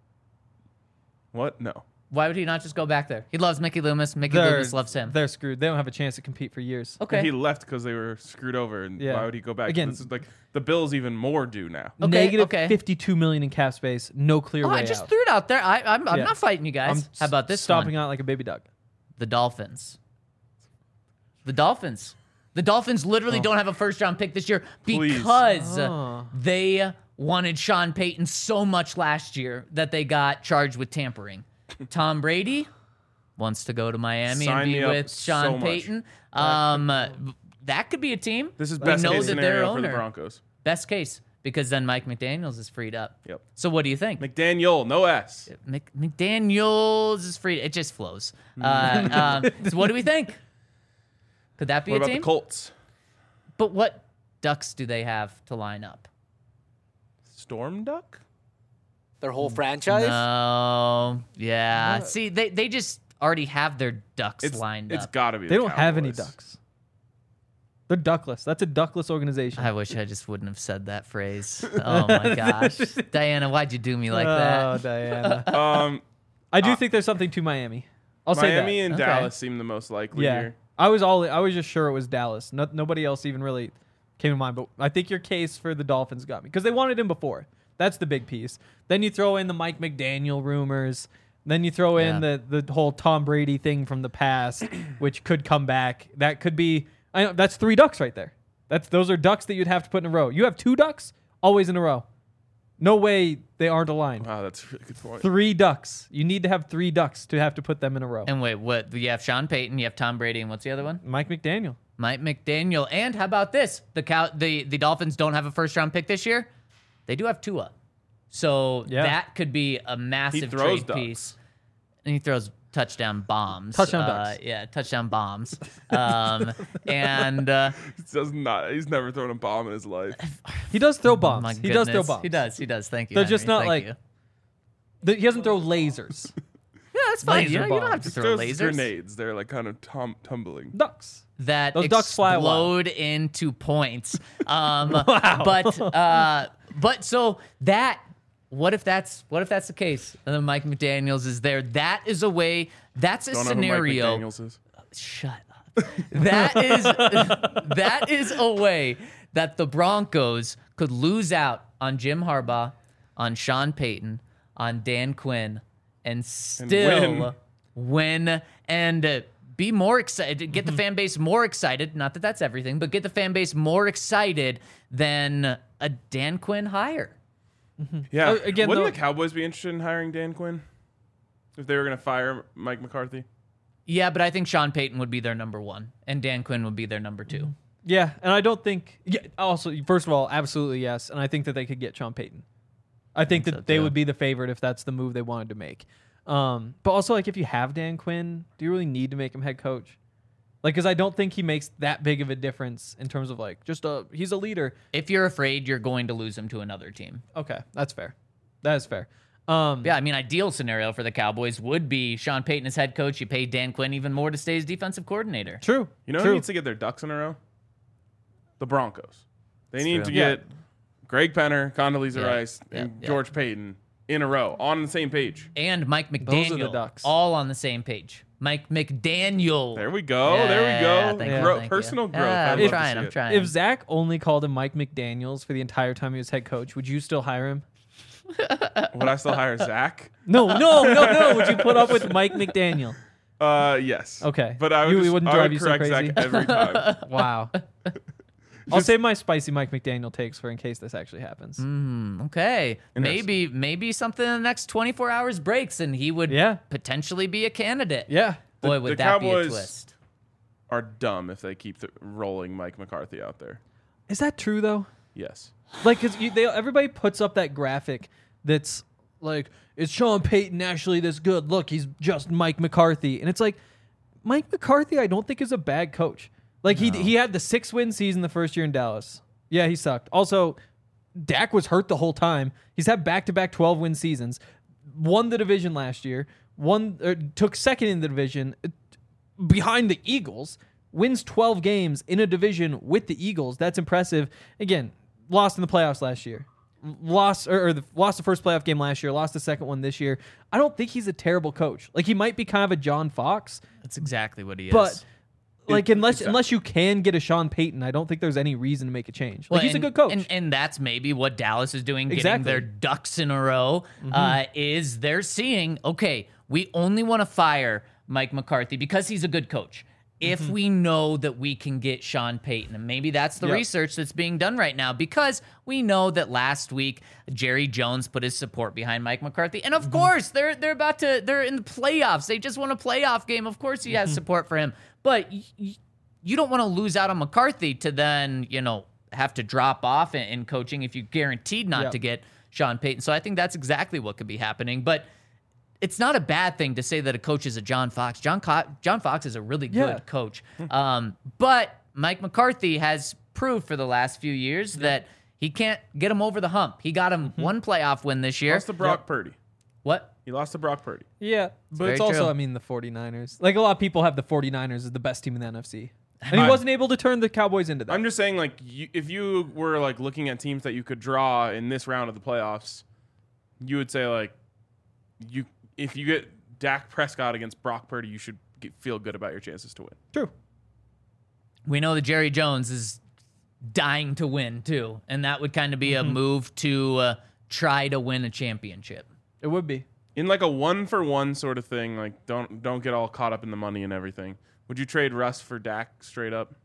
What? No. Why would he not just go back there? He loves Mickey Loomis. Mickey They're, Loomis loves him. They're screwed. They don't have a chance to compete for years. Okay. He left because they were screwed over, and Yeah. why would he go back? Again- This is like the Bills even more due now. Okay, Negative okay. fifty-two million in cap space. No clear Oh, way I just out. threw it out there. I, I'm, I'm Yeah. not fighting you guys. I'm How about this stomping one? out like a baby duck. The Dolphins. The Dolphins. The Dolphins literally don't have a first round pick this year Please. because Oh. they wanted Sean Payton so much last year that they got charged with tampering. Tom Brady wants to go to Miami Sign and me be up with so Sean much. Payton. Um, that could be a team. This is We best know case that their scenario for the owner- Broncos. Best case, because then Mike McDaniels is freed up. Yep. So what do you think? McDaniel, no S. Mc, McDaniels is free. It just flows. Uh, um, so what do we think? Could that be What a about team? the Colts? But what ducks do they have to line up? Storm Duck? Their whole franchise. No. Yeah. See, they, they just already have their ducks It's lined It's up. got to be. They the don't have any Cowboys. ducks. They're duckless. That's a duckless organization. I wish I just wouldn't have said that phrase. Oh my gosh. Diana, why'd you do me like oh, that? Diana. Um, I do Uh, think there's something to Miami. I'll say that. Miami and Okay. Dallas seem the most likely Yeah, here. I was all. I was just sure it was Dallas. No, nobody else even really came to mind. But I think your case for the Dolphins got me because they wanted him before. That's the big piece. Then you throw in the Mike McDaniel rumors. Then you throw in Yeah. the the whole Tom Brady thing from the past, which could come back. That could be. I know, that's three ducks right there. That's those are ducks that you'd have to put in a row. You have two ducks always in a row. No way they aren't aligned. Wow, that's a really good point. Three ducks. You need to have three ducks to have to put them in a row. And wait, what? You have Sean Payton, you have Tom Brady, and what's the other one? Mike McDaniel. Mike McDaniel. And how about this? The cow, the, the Dolphins don't have a first round pick this year. They do have Tua. So Yeah. that could be a massive throws trade ducks. piece. And he throws touchdown bombs. Touchdown uh, ducks. Yeah, touchdown bombs. um, and uh, He does not. He's never thrown a bomb in his life. He does throw bombs. my he does throw goodness. bombs. He does. He does. Thank you. They're Henry. just not Thank like- you. The- he doesn't throw lasers. Yeah, that's fine. laser You, know, you don't have to He throw throws lasers. grenades. They're like kind of tum- tumbling. Ducks. that Those ducks fly a while. explode into points. Um, But uh, but so that what if that's what if that's the case? And then Mike McDaniels is there. That is a way. That's a Don't know scenario. who Mike McDaniels is. Shut up. That is that is a way that the Broncos could lose out on Jim Harbaugh, on Sean Payton, on Dan Quinn, and still win and uh, be more excited. Get the fan base more excited. Not that that's everything, but get the fan base more excited than a Dan Quinn hire. Yeah. Uh, again, Wouldn't though- the Cowboys be interested in hiring Dan Quinn if they were going to fire Mike McCarthy? Yeah, but I think Sean Payton would be their number one, and Dan Quinn would be their number two. Yeah, and I don't think. Yeah, also, first of all, absolutely yes, and I think that they could get Sean Payton. I think, think that so, they too. would be the favorite if that's the move they wanted to make. Um, but also, like, if you have Dan Quinn, do you really need to make him head coach? Like, because I don't think he makes that big of a difference in terms of like just a he's a leader. If you're afraid you're going to lose him to another team. Okay, that's fair. That is fair. Um, Yeah, I mean, ideal scenario for the Cowboys would be Sean Payton as head coach. You pay Dan Quinn even more to stay as defensive coordinator. True. You know True. who needs to get their ducks in a row? The Broncos. They need true. to Yeah. get Greg Penner, Condoleezza Yeah, Rice, yeah, and yeah. George Payton in a row on the same page. And Mike Those are the McDaniel, Ducks. all on the same page. Mike McDaniel. There we go. Yeah, there we go. thank you, Gro- thank personal you. growth. Yeah, I'd I'm love to trying. see I'm it. trying. If Zach only called him Mike McDaniels for the entire time he was head coach, would you still hire him? Would I still hire Zach? No, no, no, no. Would you put up with Mike McDaniel? Uh, yes. Okay. But I would, You- it just, wouldn't I drive would you so correct crazy? Zach every time. Wow. I'll save my spicy Mike McDaniel takes for in case this actually happens. Mm, okay, Interesting. maybe maybe something in the next twenty-four hours breaks, and he would Yeah. potentially be a candidate. Yeah. Boy, The- would the that be a Cowboys- twist. Are dumb if they keep th- rolling Mike McCarthy out there. Is that true though? Yes. Like, cause you, they everybody puts up that graphic that's like, is Sean Payton actually this good? Look, he's just Mike McCarthy, and it's like, Mike McCarthy, I don't think is a bad coach. Like he he had the six win season the first year in Dallas. Yeah, he sucked. Also, Dak was hurt the whole time. He's had back to back twelve win seasons. Won the division last year. Won or took second in the division uh, behind the Eagles. Wins twelve games in a division with the Eagles. That's impressive. Again, lost in the playoffs last year. Lost or, or the, lost the first playoff game last year. Lost the second one this year. I don't think he's a terrible coach. Like he might be kind of a John Fox, That's exactly what he is. but like It- unless exactly. unless you can get a Sean Payton, I don't think there's any reason to make a change. Like Well, he's and, a good coach. and, and that's maybe what Dallas is doing, getting Exactly. their ducks in a row. Uh, is they're seeing, okay, we only want to fire Mike McCarthy because he's a good coach. If we know that we can get Sean Payton, and maybe that's the Yep. research that's being done right now, because we know that last week Jerry Jones put his support behind Mike McCarthy, and of course they're they're about to they're in the playoffs. They just won a playoff game. Of course he has support for him, but y- y- you don't want to lose out on McCarthy to then you know have to drop off in, in coaching if you're guaranteed not Yep. to get Sean Payton. So I think that's exactly what could be happening, but. It's not a bad thing to say that a coach is a John Fox. John Co- John Fox is a really good Yeah. coach. Um, but Mike McCarthy has proved for the last few years that he can't get him over the hump. He got him one playoff win this year. Lost to Brock Purdy. What? He lost to Brock Purdy. Yeah, but very it's also, true. I mean, the 49ers. Like, a lot of people have the 49ers as the best team in the N F C. And he wasn't able to turn the Cowboys into that. I'm just saying, like, you, if you were like looking at teams that you could draw in this round of the playoffs, you would say like, you if you get Dak Prescott against Brock Purdy, you should get, feel good about your chances to win. True. We know that Jerry Jones is dying to win too, and that would kind of be a move to uh, try to win a championship. It would be. In like a one for one sort of thing, like don't don't get all caught up in the money and everything. Would you trade Russ for Dak straight up?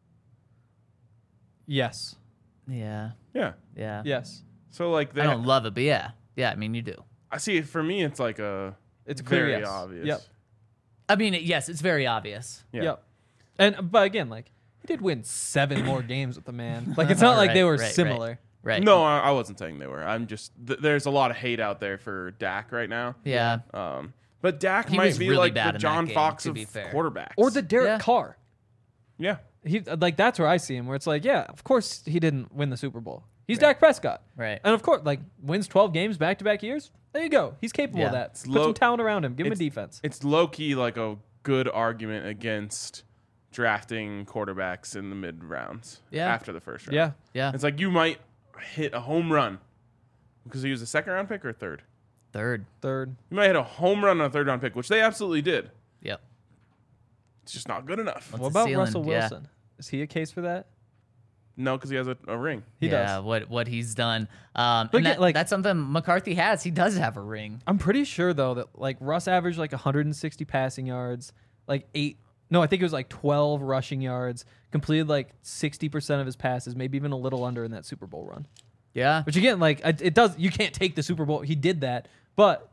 Yes. Yeah, Yeah. yeah. Yes. So like they I don't love it, but yeah, yeah. I mean, you do. I see. For me, it's like a It's a clear very yes. obvious. Yep. I mean, yes, it's very obvious. Yeah. Yep. And but again, like he did win seven more games with the man. Like it's not like Right, they were right, right. similar. Right. No, I, I wasn't saying they were. I'm just th- there's a lot of hate out there for Dak right now. Yeah. Um, but Dak He might was be really like bad the in John that game, Fox to of be fair. quarterbacks. Or the Derek Yeah. Carr. yeah. He like that's where I see him. Where it's like, yeah, of course he didn't win the Super Bowl. He's Dak Prescott. Right. And of course, like wins twelve games back to back years. There you go. He's capable Yeah. of that. It's Put low- some talent around him. Give him a it's- defense. It's low key like a good argument against drafting quarterbacks in the mid rounds. Yeah. After the first round. Yeah. Yeah. It's like you might hit a home run because he was a second round pick or a third. Third. Third. You might hit a home run on a third round pick, which they absolutely did. Yep. It's just not good enough. What's What the about ceiling? Russell Yeah. Wilson? Is he a case for that? No, because he has a, a ring. He yeah, does. what what he's done. Um, But and again, that, like- that's something McCarthy has. He does have a ring. I'm pretty sure though that like Russ averaged like one hundred sixty passing yards, like eight. No, I think it was like twelve rushing yards. Completed like sixty percent of his passes, maybe even a little under in that Super Bowl run. Yeah. Which again, like it it does. You can't take the Super Bowl. He did that, but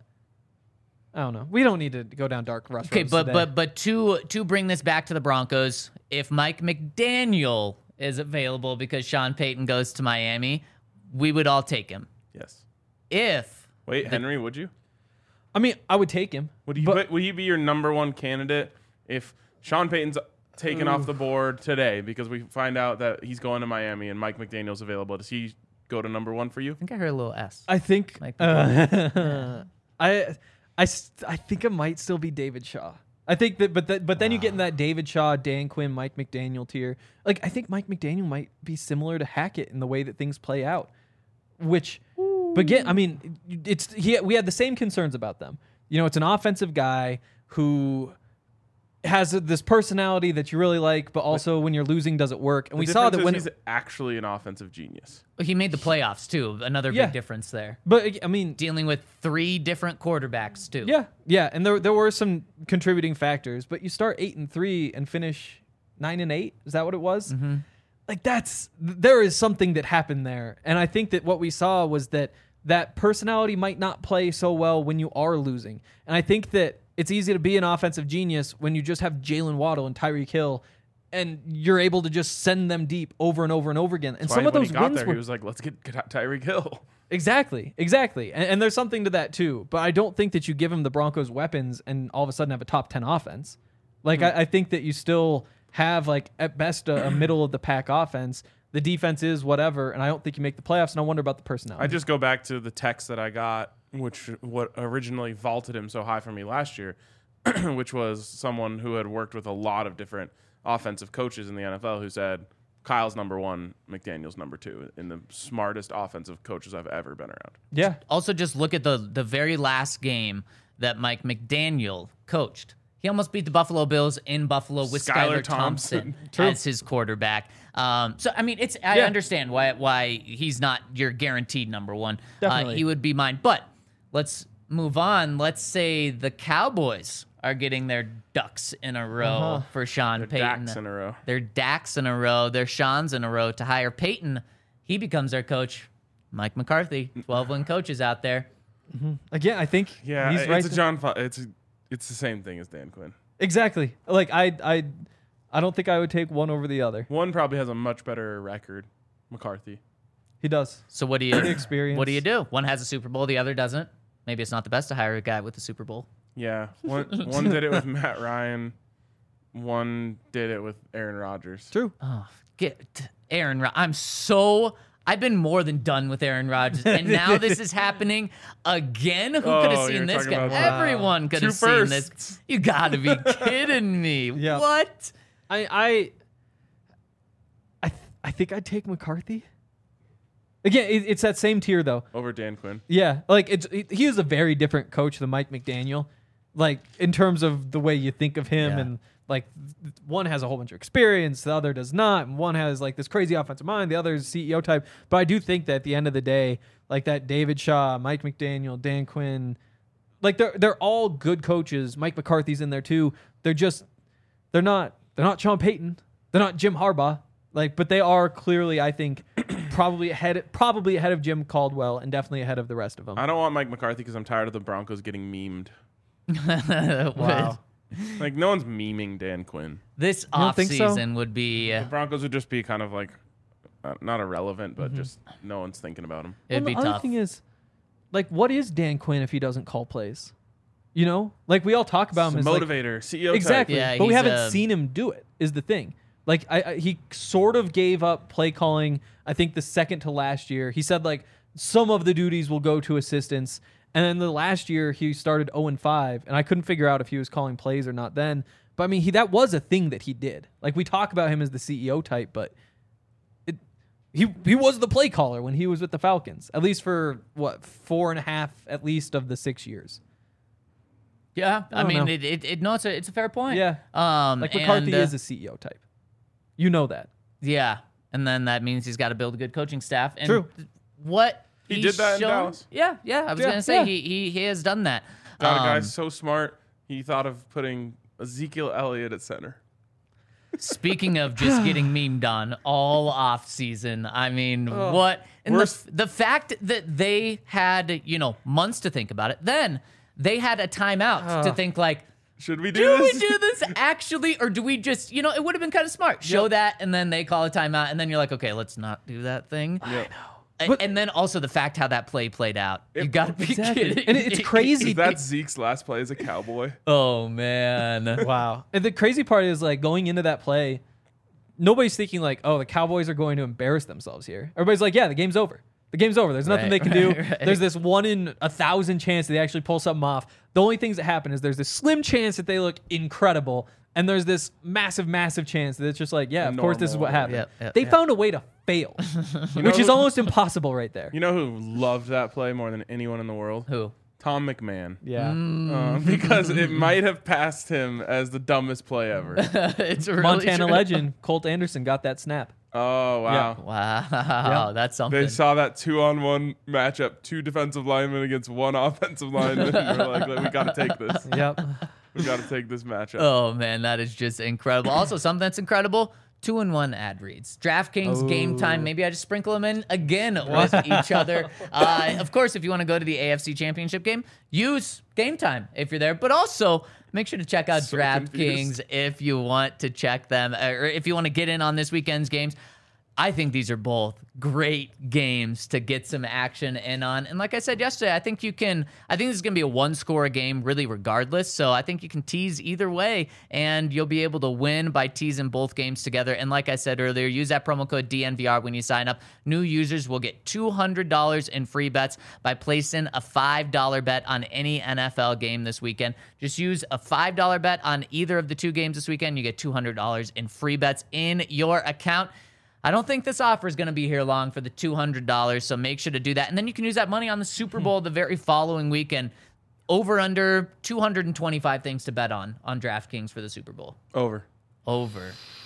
I don't know. We don't need to go down dark Russ. Okay, roads but today. but but to to bring this back to the Broncos, if Mike McDaniel is available because Sean Payton goes to Miami, we would all take him. Yes. If Wait, Henry, would you? I mean, I would take him. Would he, but- would he be your number one candidate if Sean Payton's taken off the board today because we find out that he's going to Miami and Mike McDaniel's available? Does he go to number one for you? I think I heard a little S. I think Mike uh, I I st- I think it might still be David Shaw. I think that, but that, but then you get in that David Shaw, Dan Quinn, Mike McDaniel tier. Like I think Mike McDaniel might be similar to Hackett in the way that things play out. Which, but again, I mean, it's he. We had the same concerns about them. You know, it's an offensive guy who has this personality that you really like, but also when you're losing, does it work? And The we saw that difference when is he's actually an offensive genius. He made the playoffs too. Another Yeah. big difference there. but I mean, Dealing with three different quarterbacks too. yeah, yeah, and there there were some contributing factors, but you start eight and three and finish nine and eight. Is that what it was? Mm-hmm. Like that's there is something that happened there, and I think that what we saw was that that personality might not play so well when you are losing, and I think that it's easy to be an offensive genius when you just have Jalen Waddle and Tyreek Hill, and you're able to just send them deep over and over and over again. And That's some why of when those he got wins there, were he was like, let's get, get Tyreek Hill. exactly, exactly, and, and there's something to that too. But I don't think that you give him the Broncos weapons and all of a sudden have a top ten offense. Like Hmm. I, I think that you still have like at best a, a middle of the pack offense. The defense is whatever, and I don't think you make the playoffs. And I wonder about the personality. I just go back to the text that I got, which what originally vaulted him so high for me last year, which was someone who had worked with a lot of different offensive coaches in the N F L who said, Kyle's number one, McDaniel's number two, in the smartest offensive coaches I've ever been around. yeah, Also, just look at the the very last game that Mike McDaniel coached. He almost beat the Buffalo Bills in Buffalo with Skylar Skylar Thompson, Thompson. as his quarterback. Um, so I mean, it's I Yeah. understand why why he's not your guaranteed number one. Uh, Definitely. he would be mine. But let's move on. Let's say the Cowboys are getting their ducks in a row Uh-huh. for Sean They're Payton. Dax in a row. Their Dax in a row. Their Sean's in a row to hire Payton. He becomes their coach. Mike McCarthy, twelve win coaches out there. again, I think Yeah, he's it's right. a John. Fa- it's a, it's the same thing as Dan Quinn. Exactly. Like I, I, I don't think I would take one over the other. One probably has a much better record, McCarthy. He does. So what do you Experience. What do you do? One has a Super Bowl, the other doesn't. Maybe it's not the best to hire a guy with a Super Bowl. Yeah, one one did it with Matt Ryan, one did it with Aaron Rodgers. True. Oh, get Aaron. Rod- I'm so. I've been more than done with Aaron Rodgers, and now this is happening again. Who could have Oh, seen you're this talking guy? about that. Everyone could Two have seen this. firsts. You got to be kidding me! Yeah. What? I, I, I, th- I think I'd take McCarthy. Again, it, it's that same tier though. Over Dan Quinn. Yeah, like it's it, he is a very different coach than Mike McDaniel, like in terms of the way you think of him, Yeah. and like th- one has a whole bunch of experience, the other does not, and one has like this crazy offensive mind, the other is C E O type. But I do think that at the end of the day, like that David Shaw, Mike McDaniel, Dan Quinn, like they're they're all good coaches. Mike McCarthy's in there too. They're just they're not they're not Sean Payton, they're not Jim Harbaugh. Like, but they are clearly, I think, probably ahead, probably ahead of Jim Caldwell, and definitely ahead of the rest of them. I don't want Mike McCarthy because I'm tired of the Broncos getting memed. wow. Like no one's memeing Dan Quinn. This don't think so? offseason would be. The Broncos would just be kind of like uh, not irrelevant, but just no one's thinking about him. It'd Well, be the other tough. thing is, like, what is Dan Quinn if he doesn't call plays? You know, like we all talk about him as like, Motivator, C E O exactly, Yeah, but we he's haven't a- seen him do it. Is the thing. Like I, I, he sort of gave up play calling. I think the second to last year, he said like some of the duties will go to assistants, and then the last year he started zero and five, and I couldn't figure out if he was calling plays or not then. But I mean, he that was a thing that he did. Like we talk about him as the C E O type, but it, he he was the play caller when he was with the Falcons, at least for what four and a half at least of the six years. Yeah, I, I don't mean, know. it, it, it. No, it's a, it's a fair point. Yeah. Um, Like McCarthy and, uh, is a C E O type. You know that. Yeah, and then that means he's got to build a good coaching staff. And True. th- What He he's did that in shown- Dallas. Yeah, yeah. I was Yeah, gonna say yeah. he, he he has done that. Got a guy Um, so smart he thought of putting Ezekiel Elliott at center. Speaking of just getting memed on all off season, I mean, what? And the, worse- the fact that they had, you know, months to think about it, then they had a timeout to think like, Should we do do we this? do this actually, or do we just, you know, it would have been kind of smart. Show that, and then they call a timeout, and then you're like, okay, let's not do that thing. Yeah. A- But- and then also the fact how that play played out. You It- gotta be Exactly. kidding. And it's me. crazy. That's Zeke's last play as a Cowboy. Oh man. Wow. And the crazy part is like going into that play, nobody's thinking like, oh, the Cowboys are going to embarrass themselves here. Everybody's like, yeah, the game's over. The game's over. There's nothing Right, they can do. right, right. There's this one in a thousand chance that they actually pull something off. The only things that happen is there's this slim chance that they look incredible, and there's this massive, massive chance that it's just like, yeah, of course this is what Normal. happened. Yep, yep, they yep. found a way to fail, know which is who- almost impossible right there. You know who loved that play more than anyone in the world? Who? Tom McMahon. Yeah. Uh, because it might have passed him as the dumbest play ever. It's really Montana true. legend Colt Anderson got that snap. Oh, wow. Wow, that's something. They saw that two-on-one matchup, two defensive linemen against one offensive lineman. And we're like, we got to take this. Yep. We got to take this matchup. Oh man, that is just incredible. Also, something that's incredible: two and one ad reads. DraftKings Game Time. Maybe I just sprinkle them in again with each other. Uh, of course, if you want to go to the A F C Championship game, use Game Time if you're there. But also, make sure to check out So DraftKings confused. if you want to check them, or if you want to get in on this weekend's games. I think these are both great games to get some action in on. And like I said yesterday, I think you can, I think this is going to be a one score game really regardless. So I think you can tease either way and you'll be able to win by teasing both games together. And like I said earlier, use that promo code D N V R when you sign up. New users will get two hundred dollars in free bets by placing a five dollar bet on any N F L game this weekend. Just use a five dollar bet on either of the two games this weekend. You get two hundred dollars in free bets in your account. I don't think this offer is going to be here long for the two hundred dollars, so make sure to do that. And then you can use that money on the Super Bowl the very following weekend. Over, under, two hundred twenty-five things to bet on on DraftKings for the Super Bowl. Over. Over.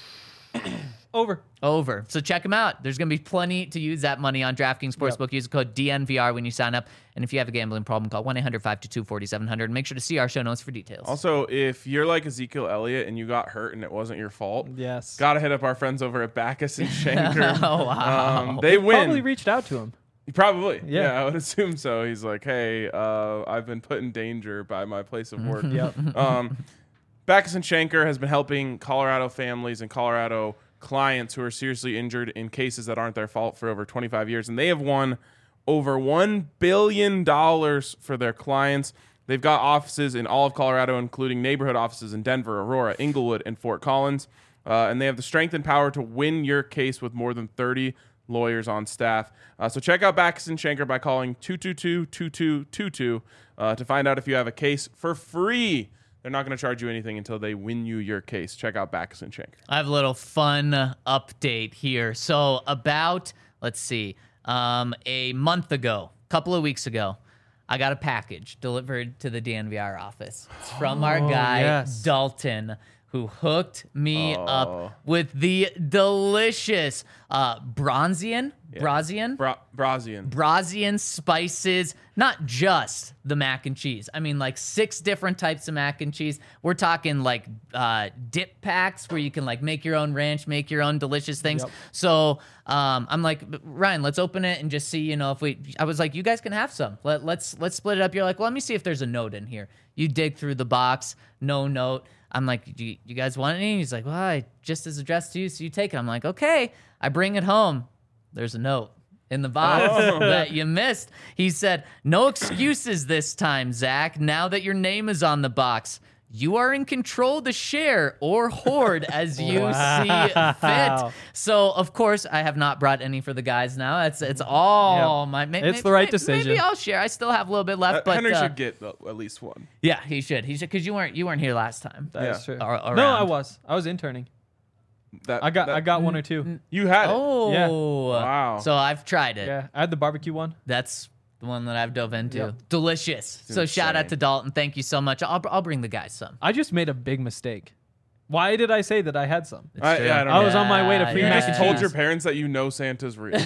Over. Over. So check them out. There's going to be plenty to use that money on DraftKings Sportsbook. Yep. Use the code D N V R when you sign up. And if you have a gambling problem, call one eight hundred five two two four seven zero zero. Make sure to see our show notes for details. Also, if you're like Ezekiel Elliott and you got hurt and it wasn't your fault, Yes. gotta hit up our friends over at Backus and Schenker. Oh, wow. Um, they win. Probably reached out to him. Probably. Yeah. Yeah. I would assume so. He's like, hey, uh, I've been put in danger by my place of work. Yep. um, Backus and Schenker has been helping Colorado families and Colorado clients who are seriously injured in cases that aren't their fault for over twenty-five years. And they have won over one billion dollars for their clients. They've got offices in all of Colorado, including neighborhood offices in Denver, Aurora, Inglewood, and Fort Collins. Uh, and they have the strength and power to win your case with more than thirty lawyers on staff. Uh, so check out Backus and Schenker by calling two two two, two two two two uh, to find out if you have a case for free. They're not going to charge you anything until they win you your case. Check out Backus and Schenker. I have a little fun update here. So about, let's see, um, a month ago, a couple of weeks ago, I got a package delivered to the D N V R office. It's from our guy, yes. Dalton, who hooked me Oh. up with the delicious uh, Bronzian, Brazian, Bra- Brazian. Brazian spices, not just the mac and cheese. I mean, like six different types of mac and cheese. We're talking like uh, dip packs where you can like make your own ranch, make your own delicious things. Yep. So um, I'm like, Ryan, let's open it and just see, you know, if we. I was like, you guys can have some. Let, let's let's split it up. You're like, well, let me see if there's a note in here. You dig through the box, no note. I'm like, do you, you guys want any? He's like, well, I just is addressed to you, so you take it. I'm like, okay. I bring it home. There's a note in the box Oh. that you missed. He said, no excuses this time, Zach. Now that your name is on the box, you are in control to share or hoard as you see fit. So, of course, I have not brought any for the guys now. It's it's all Yep. my. May, It's may- the right may- decision. Maybe I'll share. I still have a little bit left, Uh, but Henry uh, should get uh, at least one. yeah, he should. He should because you weren't you weren't here last time. That's Yeah. true. Ar- No, around. I was. I was interning. That, I got that- I got one or two. You had it. Oh, Wow. So I've tried it. Yeah. I had the barbecue one. That's the one that I've dove into. Yep. Delicious. So shout out insane. to Dalton. Thank you so much. I'll I'll bring the guys some. I just made a big mistake. Why did I say that I had some? It's I- true. yeah, I don't I was on my way to free You mac just and told cheese. your parents that you know Santa's real.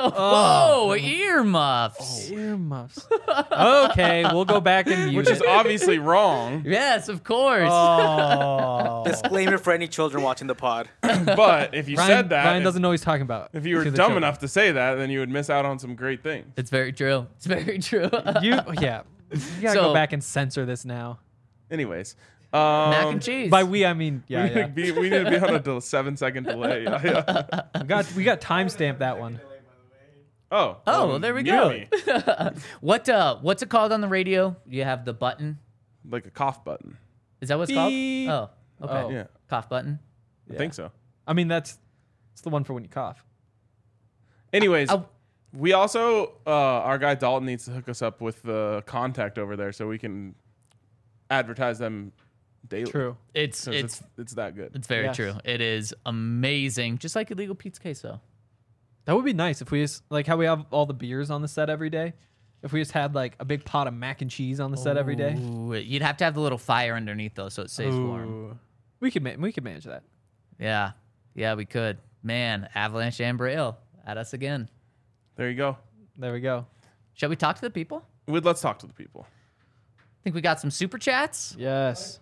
Whoa, earmuffs. Earmuffs. Okay, we'll go back and use Which is it. obviously wrong. Yes, of course. Oh. Disclaimer for any children watching the pod. But if you Ryan, said that, Ryan if, doesn't know what he's talking about. if you were to dumb the children. enough to say that, then you would miss out on some great things. It's very true. It's very true. You, yeah. You gotta So- go back and censor this now. Anyways. Um, Mac and cheese. By we, I mean, We, yeah, need to yeah. be, we need to be on a del- seven second delay. Yeah, yeah. We got, we got timestamped that one. Oh. Oh, well, there we mute go. me. what uh what's it called on the radio? You have the button. Like a cough button. Is that what it's Beep. called? Oh, okay. Oh. Yeah. Cough button. I Yeah. think so. I mean, that's it's the one for when you cough. Anyways, Oh. we also, uh, our guy Dalton needs to hook us up with the contact over there so we can advertise them daily. True. It's 'Cause it's It's, it's that good. it's very Yes. true. It is amazing. Just like illegal pizza queso. That would be nice if we just, like how we have all the beers on the set every day. If we just had like a big pot of mac and cheese on the set every day. Ooh, you'd have to have the little fire underneath though, so it stays warm. Ooh. We could ma- we could manage that. Yeah, yeah, we could. Man, Avalanche and Braille at us again. There you go. There we go. Shall we talk to the people? We- Let's talk to the people. Think we got some super chats? Yes.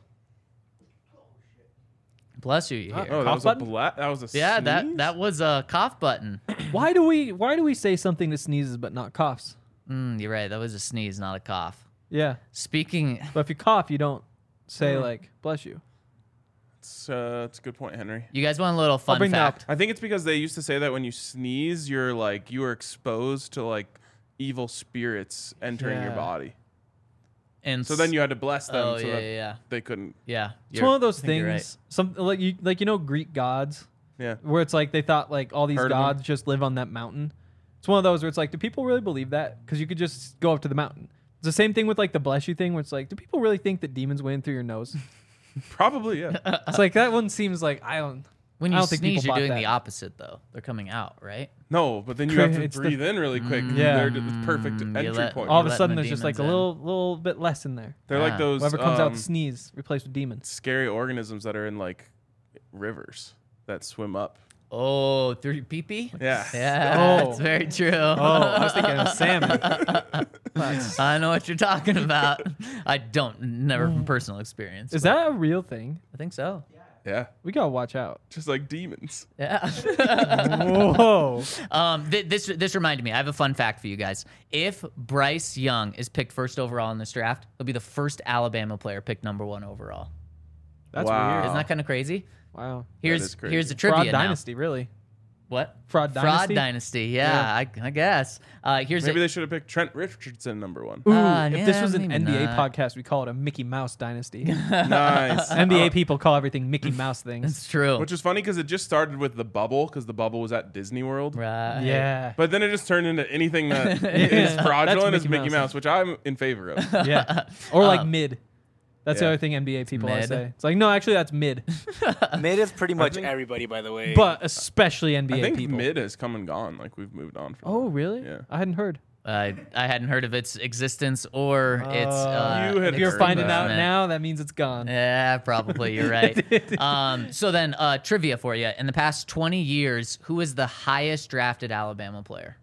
Bless you, you Uh, hear. Oh, that Cough was button? a bla- That was a Yeah, that sneeze? that was a cough button. Why do we why do we say something that sneezes but not coughs? Mm, you're right. That was a sneeze, not a cough. Yeah. Speaking, But if you cough, you don't say like bless you. It's, uh, it's a good point, Henry. you guys want a little fun bring that fact? I think it's because they used to say that when you sneeze, you're like you are exposed to like evil spirits entering your Yeah. body. And So then you had to bless them Oh so yeah, that yeah, yeah. they couldn't. Yeah, It's you're- one of those I think you're things. Some like you like you know Greek gods Yeah. where it's like they thought like all these Heard of 'em. gods just live on that mountain. It's one of those where it's like, do people really believe that? Because you could just go up to the mountain. It's the same thing with like the bless you thing, where it's like, do people really think that demons went in through your nose? Probably, yeah. It's like that one seems like I don't. When I you don't think people sneeze, you're bought doing that. the opposite though. They're coming out, right? No, but then you have to It's the- breathe in really quick. Yeah. They're the perfect Mm, you entry let- point. All of a letting sudden, the there's just like a demons in. little little bit less in there. They're Ah. like those Whoever comes um, out to sneeze, replaced with demons. scary organisms that are in like rivers that swim up. Oh, through your pee-pee? Yeah. Yeah, Oh. that's very true. Oh, I was thinking of salmon. I know what you're talking about. I don't, never from personal experience. Is but that a real thing? I think so. Yeah. We gotta watch out. Just like demons. Yeah. Whoa. um, th- this this reminded me. I have a fun fact for you guys. If Bryce Young is picked first overall in this draft, he'll be the first Alabama player picked number one overall. That's Wow. weird. Isn't that kind of crazy? Wow. Here's is crazy. here's the trivia Fraud now. dynasty, really. What? Fraud Fraud dynasty? dynasty. Yeah, I, I guess. Uh, here's Maybe a, they should have picked Trent Richardson number one. Ooh, Uh, if this yeah, was an maybe N B A not. podcast, we call it a Mickey Mouse dynasty. Nice. N B A Oh, people call everything Mickey Mouse things. It's true. Which is funny because it just started with the bubble because the bubble was at Disney World. right. Yeah. But then it just turned into anything that Yeah. is fraudulent That's as Mickey Mickey Mouse. Mouse, which I'm in favor of. Yeah. Or like Um, mid. That's the yeah. other thing N B A people always Mid. say. It's like, no, actually, that's mid. Mid is pretty much think- everybody, by the way. But especially N B A I think people. mid has come and gone. Like we've moved on from. Oh, really? Yeah. I hadn't heard. I I hadn't heard of its existence or its. Uh, You had If you're heard finding that. out existence. now, that means it's gone. Yeah, probably. You're right. um, so then, uh, trivia for you. In the past twenty years, who is the highest drafted Alabama player?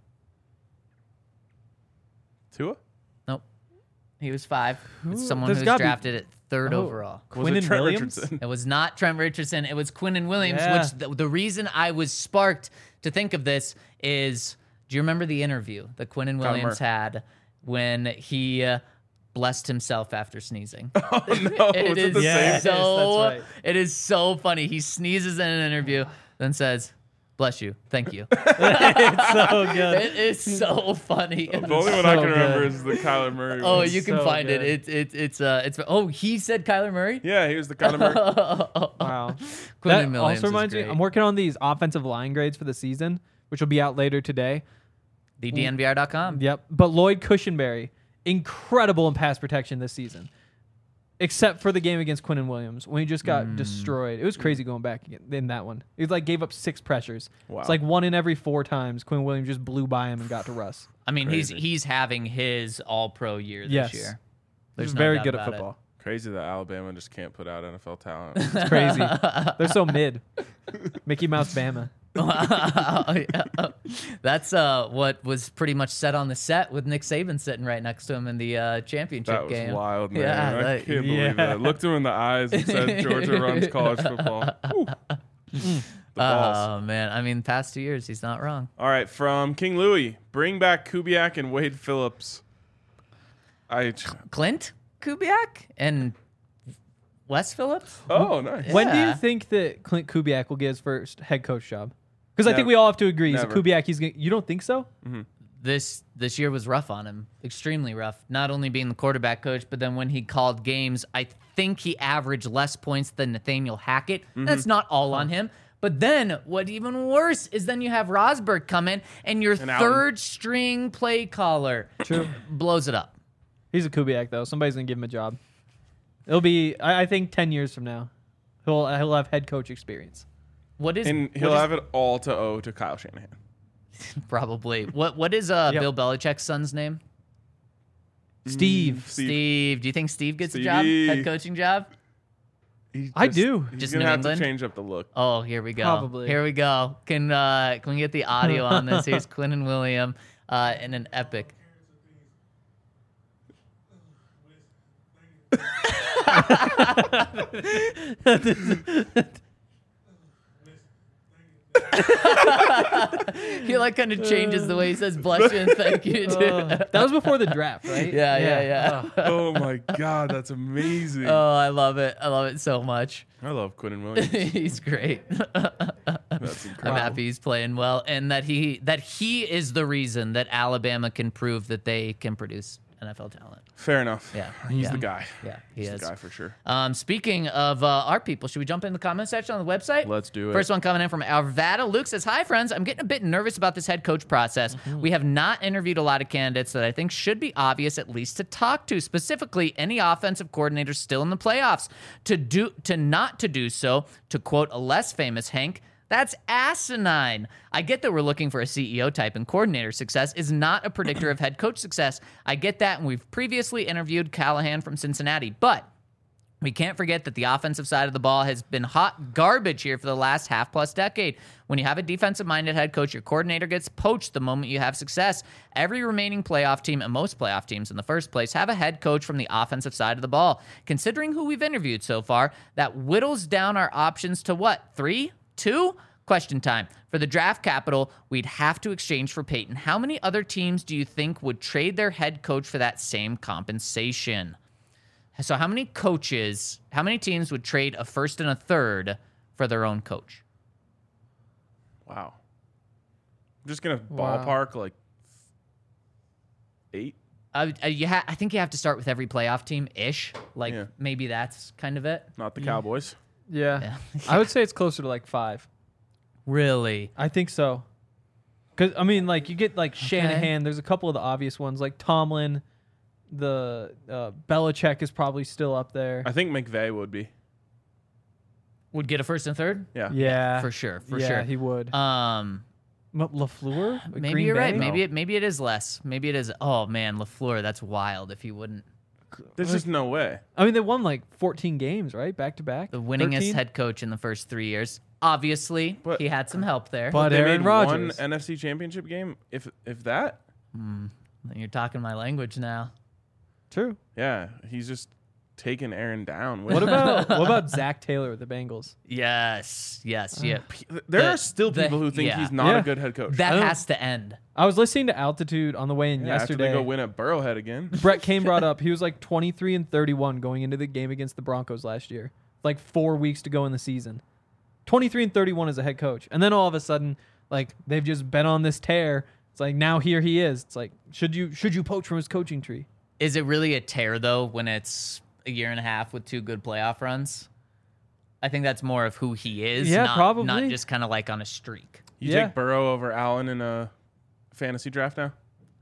Tua? Nope. He was five. It's Who- someone there's who was gotta be- drafted at third Oh. overall. Was Quinnen it Trent Williams? Richardson? It was not Trent Richardson. It was Quinnen Williams, Yeah. which the, the reason I was sparked to think of this is, do you remember the interview that Quinnen Kyler Williams Murray. had when he uh, blessed himself after sneezing? Oh no! It Was it is the Yes, same? so that's right. it is so funny. He sneezes in an interview, then says, "Bless you, thank you." It's so good. It is so funny. The only one I so can remember good. is the Kyler Murray. Oh, one. you can so find good. it. It's it's it's uh it's oh he said Kyler Murray. Yeah, he was the Kyler Murray. Wow. Quinnen That Williams also is reminds me, great. I'm working on these offensive line grades for the season, which will be out later today. the D N V R dot com. Yep. But Lloyd Cushenberry, incredible in pass protection this season. Except for the game against Quinnen Williams when he just got Mm. destroyed. It was crazy going back in that one. He like gave up six pressures. Wow. It's like one in every four times Quinnen Williams just blew by him and got to Russ. I mean, he's Crazy. he's having his All Pro year this Yes. year. He's There's no very doubt good at about it. football. Crazy that Alabama just can't put out N F L talent. It's crazy. They're so mid. Mickey Mouse Bama. That's uh what was pretty much set on the set with Nick Saban sitting right next to him in the uh, championship That was game. wild, man. Yeah, I that- can't yeah. believe that. Looked him in the eyes and said Georgia runs college football. Whew. The balls. Oh man, I mean, past two years, he's not wrong. All right, from King Louis, bring back Kubiak and Wade Phillips. I Clint Kubiak and Wes Phillips. oh nice. When do you Yeah. think that Clint Kubiak will get his first head coach job? Because I think Never. we all have to agree. He's a Never. Kubiak. He's gonna, you don't think so? This this year was rough on him, extremely rough. Not only being the quarterback coach, but then when he called games, I think he averaged less points than Nathaniel Hackett. That's not all on him. But then, what even worse is then you have Rosberg come in and your And Allen. third string play caller True. blows it up. He's a Kubiak though. Somebody's gonna give him a job. It'll be, I, I think, ten years from now, he'll he'll have head coach experience. What is And what he'll is- have it all to owe to Kyle Shanahan. probably what what is uh Yep. Bill Belichick's son's name? Steve. Steve. Steve, do you think Steve gets a job, Stevie. head coaching job? He's I just- do. He's Just gonna New have England? to change up the look. Oh, here we go. Probably. Here we go. Can uh, can we get the audio on this? Here's Quinn and William uh, in an epic. He like kind of changes the way he says bless you and thank you too. Uh, that was before the draft, right? yeah, yeah, yeah. Oh my god, that's amazing. Oh, I love it. I love it so much. I love Quinn and Williams. He's great. That's I'm incredible. happy he's playing well, and that he that he is the reason that Alabama can prove that they can produce N F L talent. Fair enough. Yeah, He's yeah. the guy. Yeah, he He's is. the guy for sure. Um, speaking of uh, our people, should we jump in the comment section on the website? Let's do it. First one coming in from Arvada. Luke says, "Hi friends, I'm getting a bit nervous about this head coach process. Mm-hmm. We have not interviewed a lot of candidates that I think should be obvious at least to talk to. Specifically, any offensive coordinators still in the playoffs. To do to not to do so, to quote a less famous Hank." That's asinine. I get that we're looking for a C E O type, and coordinator success is not a predictor of head coach success. I get that, and we've previously interviewed Callahan from Cincinnati. But we can't forget that the offensive side of the ball has been hot garbage here for the last half-plus decade. When you have a defensive-minded head coach, your coordinator gets poached the moment you have success. Every remaining playoff team, and most playoff teams in the first place, have a head coach from the offensive side of the ball. Considering who we've interviewed so far, that whittles down our options to what? Three? Two? Question time. For the draft capital, we'd have to exchange for Peyton. How many other teams do you think would trade their head coach for that same compensation? So how many coaches, how many teams would trade a first and a third for their own coach? Wow. I'm just gonna Wow. ballpark like eight. Uh, uh, you ha- I think you have to start with every playoff team-ish. Like, Yeah. maybe that's kind of it. Not the Cowboys. Yeah. Yeah. I would say it's closer to like five. Really? I think so. Because, I mean, like, you get, like, Shanahan. There's a couple of the obvious ones, like Tomlin. The uh, Belichick is probably still up there. I think McVay would be. Would get a first and third? Yeah. Yeah. For sure, for yeah, sure. he would. Um, M- LaFleur? With maybe Green you're right. Bay? Maybe it, maybe it is less. Maybe it is. Oh, man, LaFleur, that's wild if he wouldn't. There's just no way. I mean, they won, like, fourteen games, right? Back to back? The winningest thirteen? head coach in the first three years. Obviously, But- he had some help there. But They Aaron made Rodgers. one N F C Championship game. If if that, You're talking my language now. True. yeah, he's just taking Aaron down. With What about what about Zach Taylor with the Bengals? Yes, yes, yeah. there the- are still the- people who think yeah. he's not Yeah. a good head coach. That I don't- has to end. I was listening to Altitude on the way in yeah, after yesterday. they go win at Burrowhead again. Brett Kane brought up he was like twenty-three and thirty-one going into the game against the Broncos last year. Like four weeks to go in the season. twenty-three and thirty-one as a head coach. And then all of a sudden, like they've just been on this tear. It's like now here he is. It's like should you should you poach from his coaching tree? Is it really a tear though when it's a year and a half with two good playoff runs? I think that's more of who he is. Yeah, not, probably. Not just kind of like on a streak. You Yeah. take Burrow over Allen in a fantasy draft now?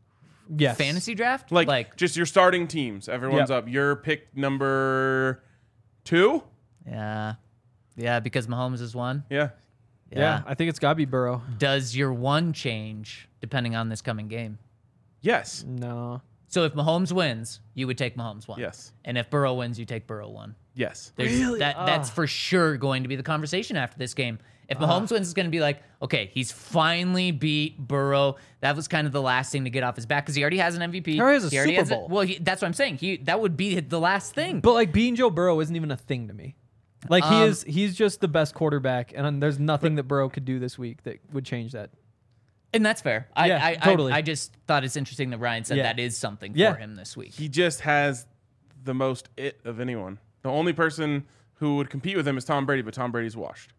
Yes. Fantasy draft? Like, like just your starting teams. Everyone's Yep. up. Your pick number two? yeah. Yeah, because Mahomes is one. Yeah. Yeah. Yeah. I think it's gotta be Burrow. Does your one change depending on this coming game? Yes. No. So if Mahomes wins, you would take Mahomes one. Yes. And if Burrow wins, you take Burrow one. Yes. There's, Really? That that's Ah. for sure going to be the conversation after this game. If Mahomes wins, it's going to be like, okay, he's finally beat Burrow. That was kind of the last thing to get off his back because he already has an M V P. He already has a already Super has a- Bowl. well, he, that's what I'm saying. He that would be the last thing. But like beating Joe Burrow isn't even a thing to me. Like he Um, is he's just the best quarterback and there's nothing that Burrow could do this week that would change that. And that's fair. I, Yeah, I, totally. I, I just thought it's interesting that Ryan said Yeah. that is something Yeah. for him this week. He just has the most it of anyone. The only person who would compete with him is Tom Brady, but Tom Brady's washed.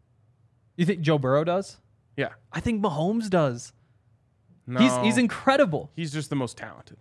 You think Joe Burrow does? Yeah. I think Mahomes does. No. He's he's incredible He's just the most talented.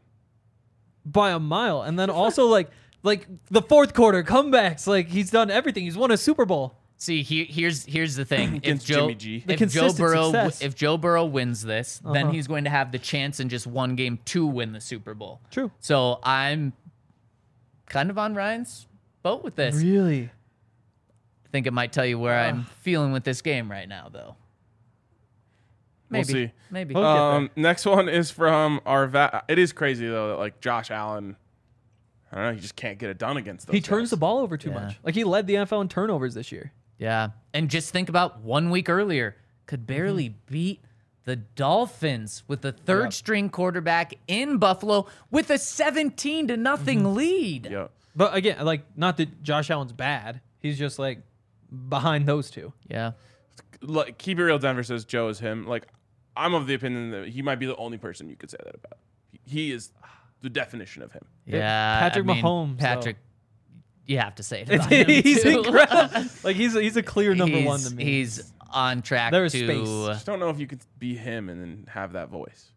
by a mile. And then also like like the fourth quarter comebacks, like he's done everything. He's won a Super Bowl. See, he, here's here's the thing. if Against Joe, Jimmy G. The if Joe consistent Burrow, success. if Joe Burrow wins this, then Uh-huh. he's going to have the chance in just one game to win the Super Bowl. True. So I'm kind of on Ryan's boat with this. Really? I think it might tell you where I'm feeling with this game right now, though. Maybe. We'll see. Maybe. We'll get there. Um, next one is from our va- It is crazy though that like Josh Allen, I don't know, he just can't get it done against those He turns guys. the ball over too Yeah. much. Like he led the N F L in turnovers this year. Yeah. And just think about one week earlier, could barely beat the Dolphins with the third Yep. string quarterback in Buffalo with a seventeen to nothing lead. Yeah. But again, like not that Josh Allen's bad. He's just like behind those two. Yeah. Like, keep it real, Denver says Joe is him. Like, I'm of the opinion that he might be the only person you could say that about. He- He is the definition of him. Yeah. Patrick I mean, Mahomes, though. Patrick, you have to say it about him he's too. incredible. Like he's a, he's a clear number he's, one to me. He's on track There's to. space. Just don't know if you could be him and then have that voice.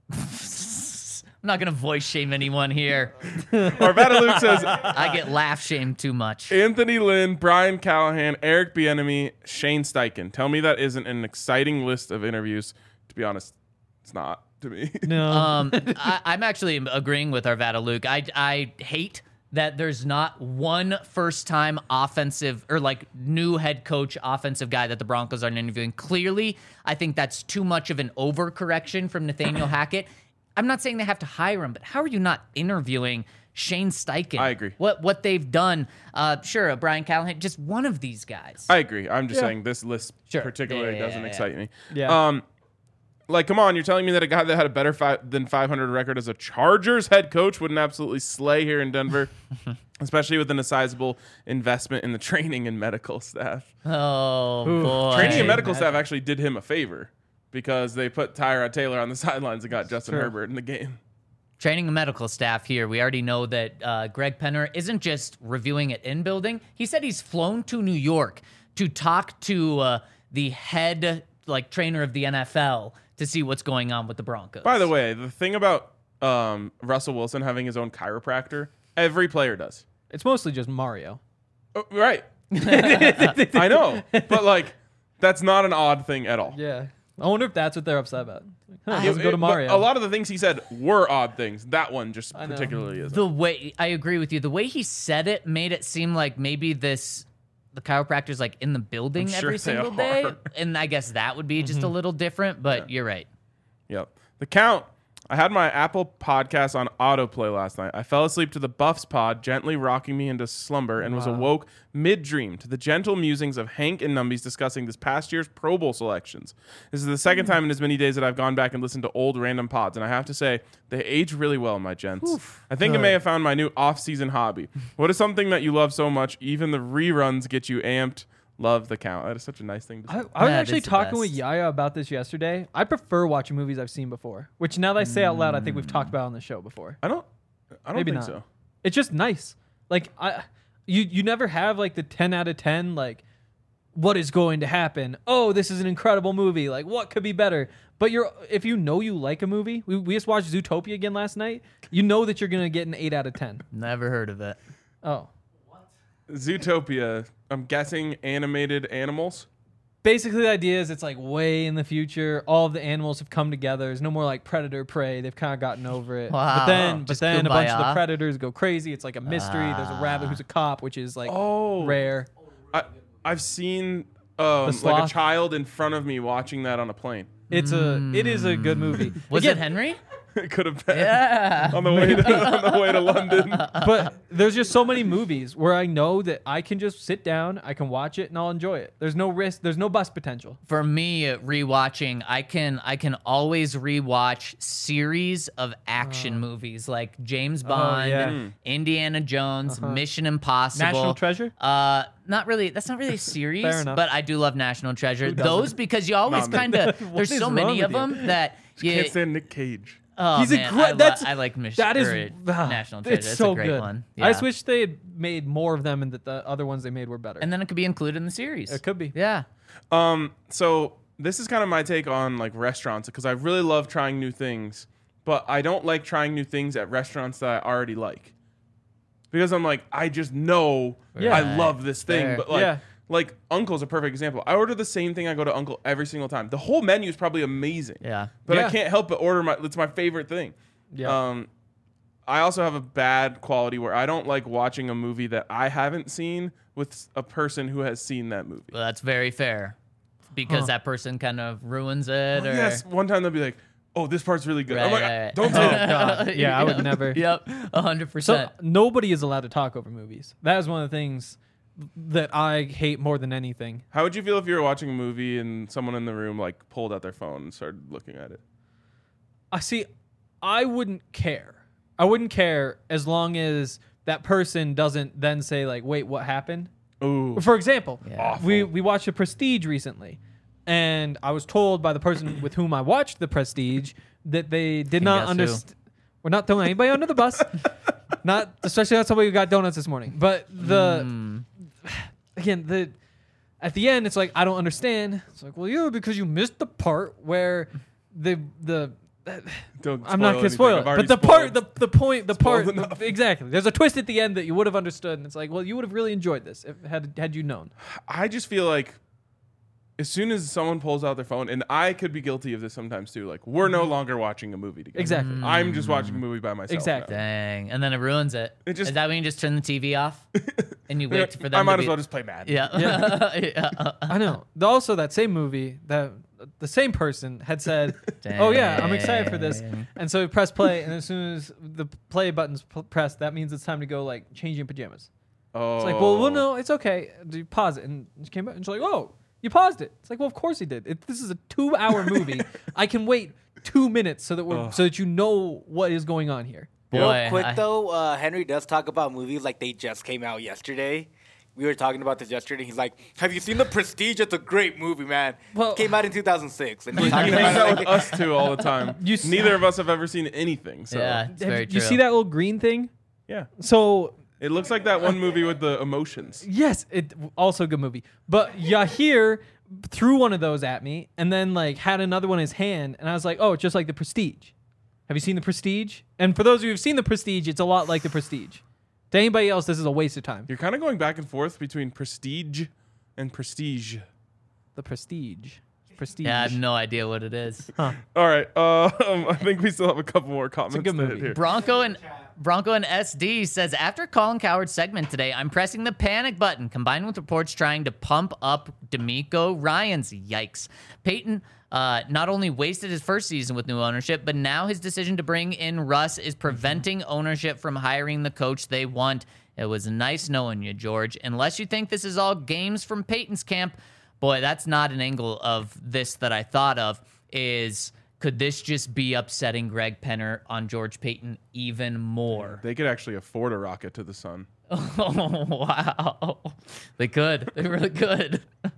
I'm not gonna voice shame anyone here. Arvada Luke says I get laugh shamed too much. Anthony Lynn, Brian Callahan, Eric Bieniemy, Shane Steichen. Tell me that isn't an exciting list of interviews. To be honest, it's not to me. no. Um, I, I'm actually agreeing with Arvada Luke. I I hate that there's not one first time offensive or like new head coach offensive guy that the Broncos aren't interviewing. Clearly, I think that's too much of an overcorrection from Nathaniel Hackett. I'm not saying they have to hire him, but how are you not interviewing Shane Steichen? I agree. What what they've done, uh, sure, uh, Brian Callahan, just one of these guys. I agree. I'm just Yeah. saying this list Sure. particularly Yeah, yeah, doesn't yeah, excite me. Yeah. Um, like, come on, you're telling me that a guy that had a better fi- than five hundred record as a Chargers head coach wouldn't absolutely slay here in Denver, especially within a sizable investment in the training and medical staff. Oh Ooh. boy, Training and Right. medical staff actually did him a favor because they put Tyrod Taylor on the sidelines and got Justin True. Herbert in the game. Training and medical staff here. We already know that uh, Greg Penner isn't just reviewing it in building. He said he's flown to New York to talk to uh, the head like trainer of the N F L to see what's going on with the Broncos. By the way, the thing about um, Russell Wilson having his own chiropractor, every player does. It's mostly just Mario. Oh, right. I know. But, like, that's not an odd thing at all. Yeah. I wonder if that's what they're upset about. Huh, I- let's go to It- but Mario. A lot of the things he said were odd things. That one just I know. particularly is. the way I agree with you. The way he said it made it seem like maybe this the chiropractor's like in the building I'm sure every they single day, are. and I guess that would be just a little different. But you're right. Yep. The Count. I had my Apple podcast on autoplay last night. I fell asleep to the Buffs pod, gently rocking me into slumber, and was awoke mid-dream to the gentle musings of Hank and Numbies discussing this past year's Pro Bowl selections. This is the second time in as many days that I've gone back and listened to old random pods, and I have to say, they age really well, my gents. I think I may have found my new off-season hobby. What is something that you love so much, even the reruns get you amped? Love The Count. That is such a nice thing to say. I, I was That actually is the talking with best. Yaya about this yesterday. I prefer watching movies I've seen before, which now that I say out loud, I think we've talked about on the show before. I don't, I don't Maybe think not. so. It's just nice. Like I, you you never have like the ten out of ten like what is going to happen. Oh, this is an incredible movie. Like what could be better? But you're if you know you like a movie, we, we just watched Zootopia again last night. You know that you're gonna get an eight out of ten. Never heard of it. Oh, Zootopia, I'm guessing animated animals. basically the idea is it's like way in the future. All of the animals have come together. There's no more like predator prey. They've kind of gotten over it. Wow. But then, but Just then a bunch of the kumbaya. predators go crazy. It's like a mystery. There's a rabbit who's a cop, which is like Oh. rare. I, I've seen um, like sloth? a child in front of me watching that on a plane. It's a it is a good movie. Was Again, it Henry? It could have been Yeah. on the way to on the way to London. But there's just so many movies where I know that I can just sit down, I can watch it, and I'll enjoy it. There's no risk. There's no bust potential. For me, rewatching, I can I can always rewatch series of action movies like James Bond, yeah. Hmm. Indiana Jones, Mission Impossible, National Treasure? Uh, not really. That's not really a series, Fair enough. but I do love National Treasure. doesn't? Those because you always Not me. kind of What there's is so wrong many of with you? them that you. Can't stand Nick Cage. Oh, He's a man, great- I, lo- that's- I like Mission. That is or, ah, National Treasure. It's It's so a great good. one. I Yeah. just wish they had made more of them, and that the other ones they made were better. And then it could be included in the series. It could be. Yeah. Um, so this is kind of my take on like restaurants because I really love trying new things, but I don't like trying new things at restaurants that I already like because I'm like I just know Yeah. I love this thing, Fair. but like. Yeah. Like Uncle's a perfect example. I order the same thing I go to Uncle every single time. The whole menu is probably amazing. Yeah. But Yeah. I can't help but order my it's my favorite thing. Yeah. Um I also have a bad quality where I don't like watching a movie that I haven't seen with a person who has seen that movie. Well, that's very fair. because Huh. that person kind of ruins it. Well, or yes, one time they'll be like, "Oh, this part's really good." Right, I'm like, right, right. "Don't say Oh, that." God. Yeah, I would Yep. never. Yep, a hundred So percent. nobody is allowed to talk over movies. That is one of the things that I hate more than anything. How would you feel if you were watching a movie and someone in the room like pulled out their phone and started looking at it? I see. I wouldn't care. I wouldn't care as long as that person doesn't then say like, "Wait, what happened?" Ooh, For example, Yeah. we we watched The Prestige recently, and I was told by the person with whom I watched The Prestige that they did Can not guess who? understand. We're not throwing anybody under the bus. Not especially not somebody who got donuts this morning. But the Mm. again the at the end it's like I don't understand. It's like, well, yeah, because you missed the part where the the don't. I'm not spoil gonna spoil anything. it, I've already but the part, spoiled. the the point, the part, Spoiled the- enough. exactly. There's a twist at the end that you would have understood, and it's like, well, you would have really enjoyed this if had had you known. I just feel like as soon as someone pulls out their phone, and I could be guilty of this sometimes too. Like we're no longer watching a movie together. Exactly. I'm just watching a movie by myself. Exactly. now. Dang, and then it ruins it. It just- Is that when you just turn the T V off and you wait for them? I might to as be, well just play Madden. Yeah. Yeah. I know. Also, that same movie, that the same person had said, "Oh yeah, I'm excited for this," Dang. and so we press play, and as soon as the play button's p- pressed, that means it's time to go like change your pajamas. Oh. It's like, well, well, no, it's okay. You pause it, and she came back, and she's like, "Oh, you paused it." It's like, well, of course he did. It, this is a two-hour movie. I can wait two minutes so that we're Ugh. so that you know what is going on here. Boy, Real quick I- though, uh, Henry does talk about movies like they just came out yesterday. We were talking about this yesterday. He's like, "Have you seen The Prestige? It's a great movie, man. Well- Came out in two thousand six." And He he's talking hangs about out it with like, us two all the time. You s- Neither of us have ever seen anything. So Yeah, it's Have very you, true. you see that little green thing? yeah. So It looks like that one movie with the emotions. yes, it also a good movie. But Yahir threw one of those at me, and then like had another one in his hand, and I was like, "Oh, it's just like The Prestige." Have you seen The Prestige? And for those of you who've seen The Prestige, it's a lot like The Prestige. To anybody else, this is a waste of time. You're kind of going back and forth between prestige and prestige. The Prestige. Prestige. Yeah, I have no idea what it is. All right. Uh, um, I think we still have a couple more comments. good to hit movie. here. Bronco and Bronco and S D says after Colin Coward's segment today, I'm pressing the panic button, combined with reports trying to pump up D'Amico Ryans. Yikes! Peyton uh, not only wasted his first season with new ownership, but now his decision to bring in Russ is preventing ownership from hiring the coach they want. It was nice knowing you, George. Unless you think this is all games from Peyton's camp, boy, that's not an angle of this that I thought of. Is could this just be upsetting Greg Penner on George Payton even more? They could actually afford a rocket to the sun. Oh, wow. They could. They really could.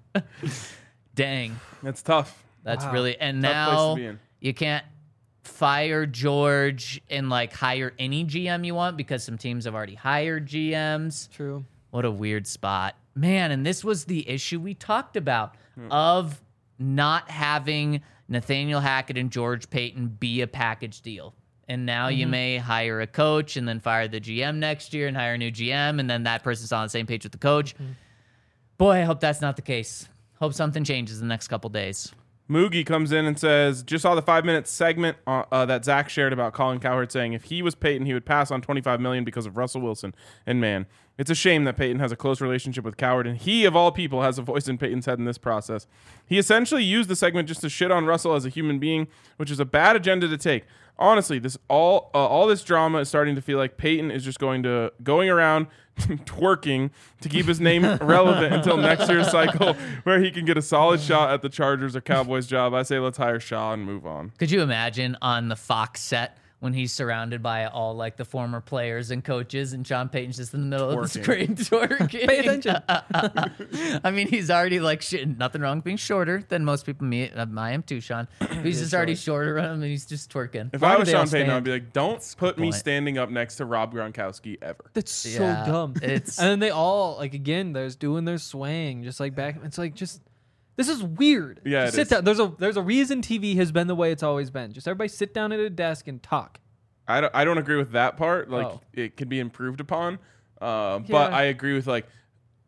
Dang. That's tough. That's Wow. really. And Tough place to now be in. you can't fire George and like hire any G M you want because some teams have already hired G Ms. True. What a weird spot. Man, and this was the issue we talked about of not having Nathaniel Hackett and George Payton be a package deal. And now you may hire a coach and then fire the G M next year and hire a new G M, and then that person's on the same page with the coach. Boy, I hope that's not the case. Hope something changes in the next couple days. Moogie comes in and says, just saw the five-minute segment uh, uh, that Zach shared about Colin Cowherd saying if he was Peyton, he would pass on twenty-five million dollars because of Russell Wilson. And man, it's a shame that Peyton has a close relationship with Cowherd, and he, of all people, has a voice in Peyton's head in this process. He essentially used the segment just to shit on Russell as a human being, which is a bad agenda to take. Honestly, this all uh, all this drama is starting to feel like Peyton is just going to going around twerking to keep his name relevant until next year's cycle, where he can get a solid shot at the Chargers or Cowboys job. I say let's hire Shaw and move on. Could you imagine on the Fox set when he's surrounded by all like the former players and coaches, and Sean Payton's just in the middle of the Twerking. screen twerking? Pay attention. I mean, he's already like shit. Nothing wrong with being shorter than most people. Me, uh, I am too, Sean. But he's just already shorter on him, and he's just twerking. If Why I do was they Sean all Payton, stand? I'd be like, don't put me point. standing up next to Rob Gronkowski ever. That's so Yeah, dumb. it's- and then they all like again, there's doing their swaying, just like back. It's like just this is weird. Yeah, Just it sit is. down. There's a there's a reason T V has been the way it's always been. Just everybody sit down at a desk and talk. I don't, I don't agree with that part. Like, Oh. it could be improved upon. Uh, Yeah. But I agree with, like,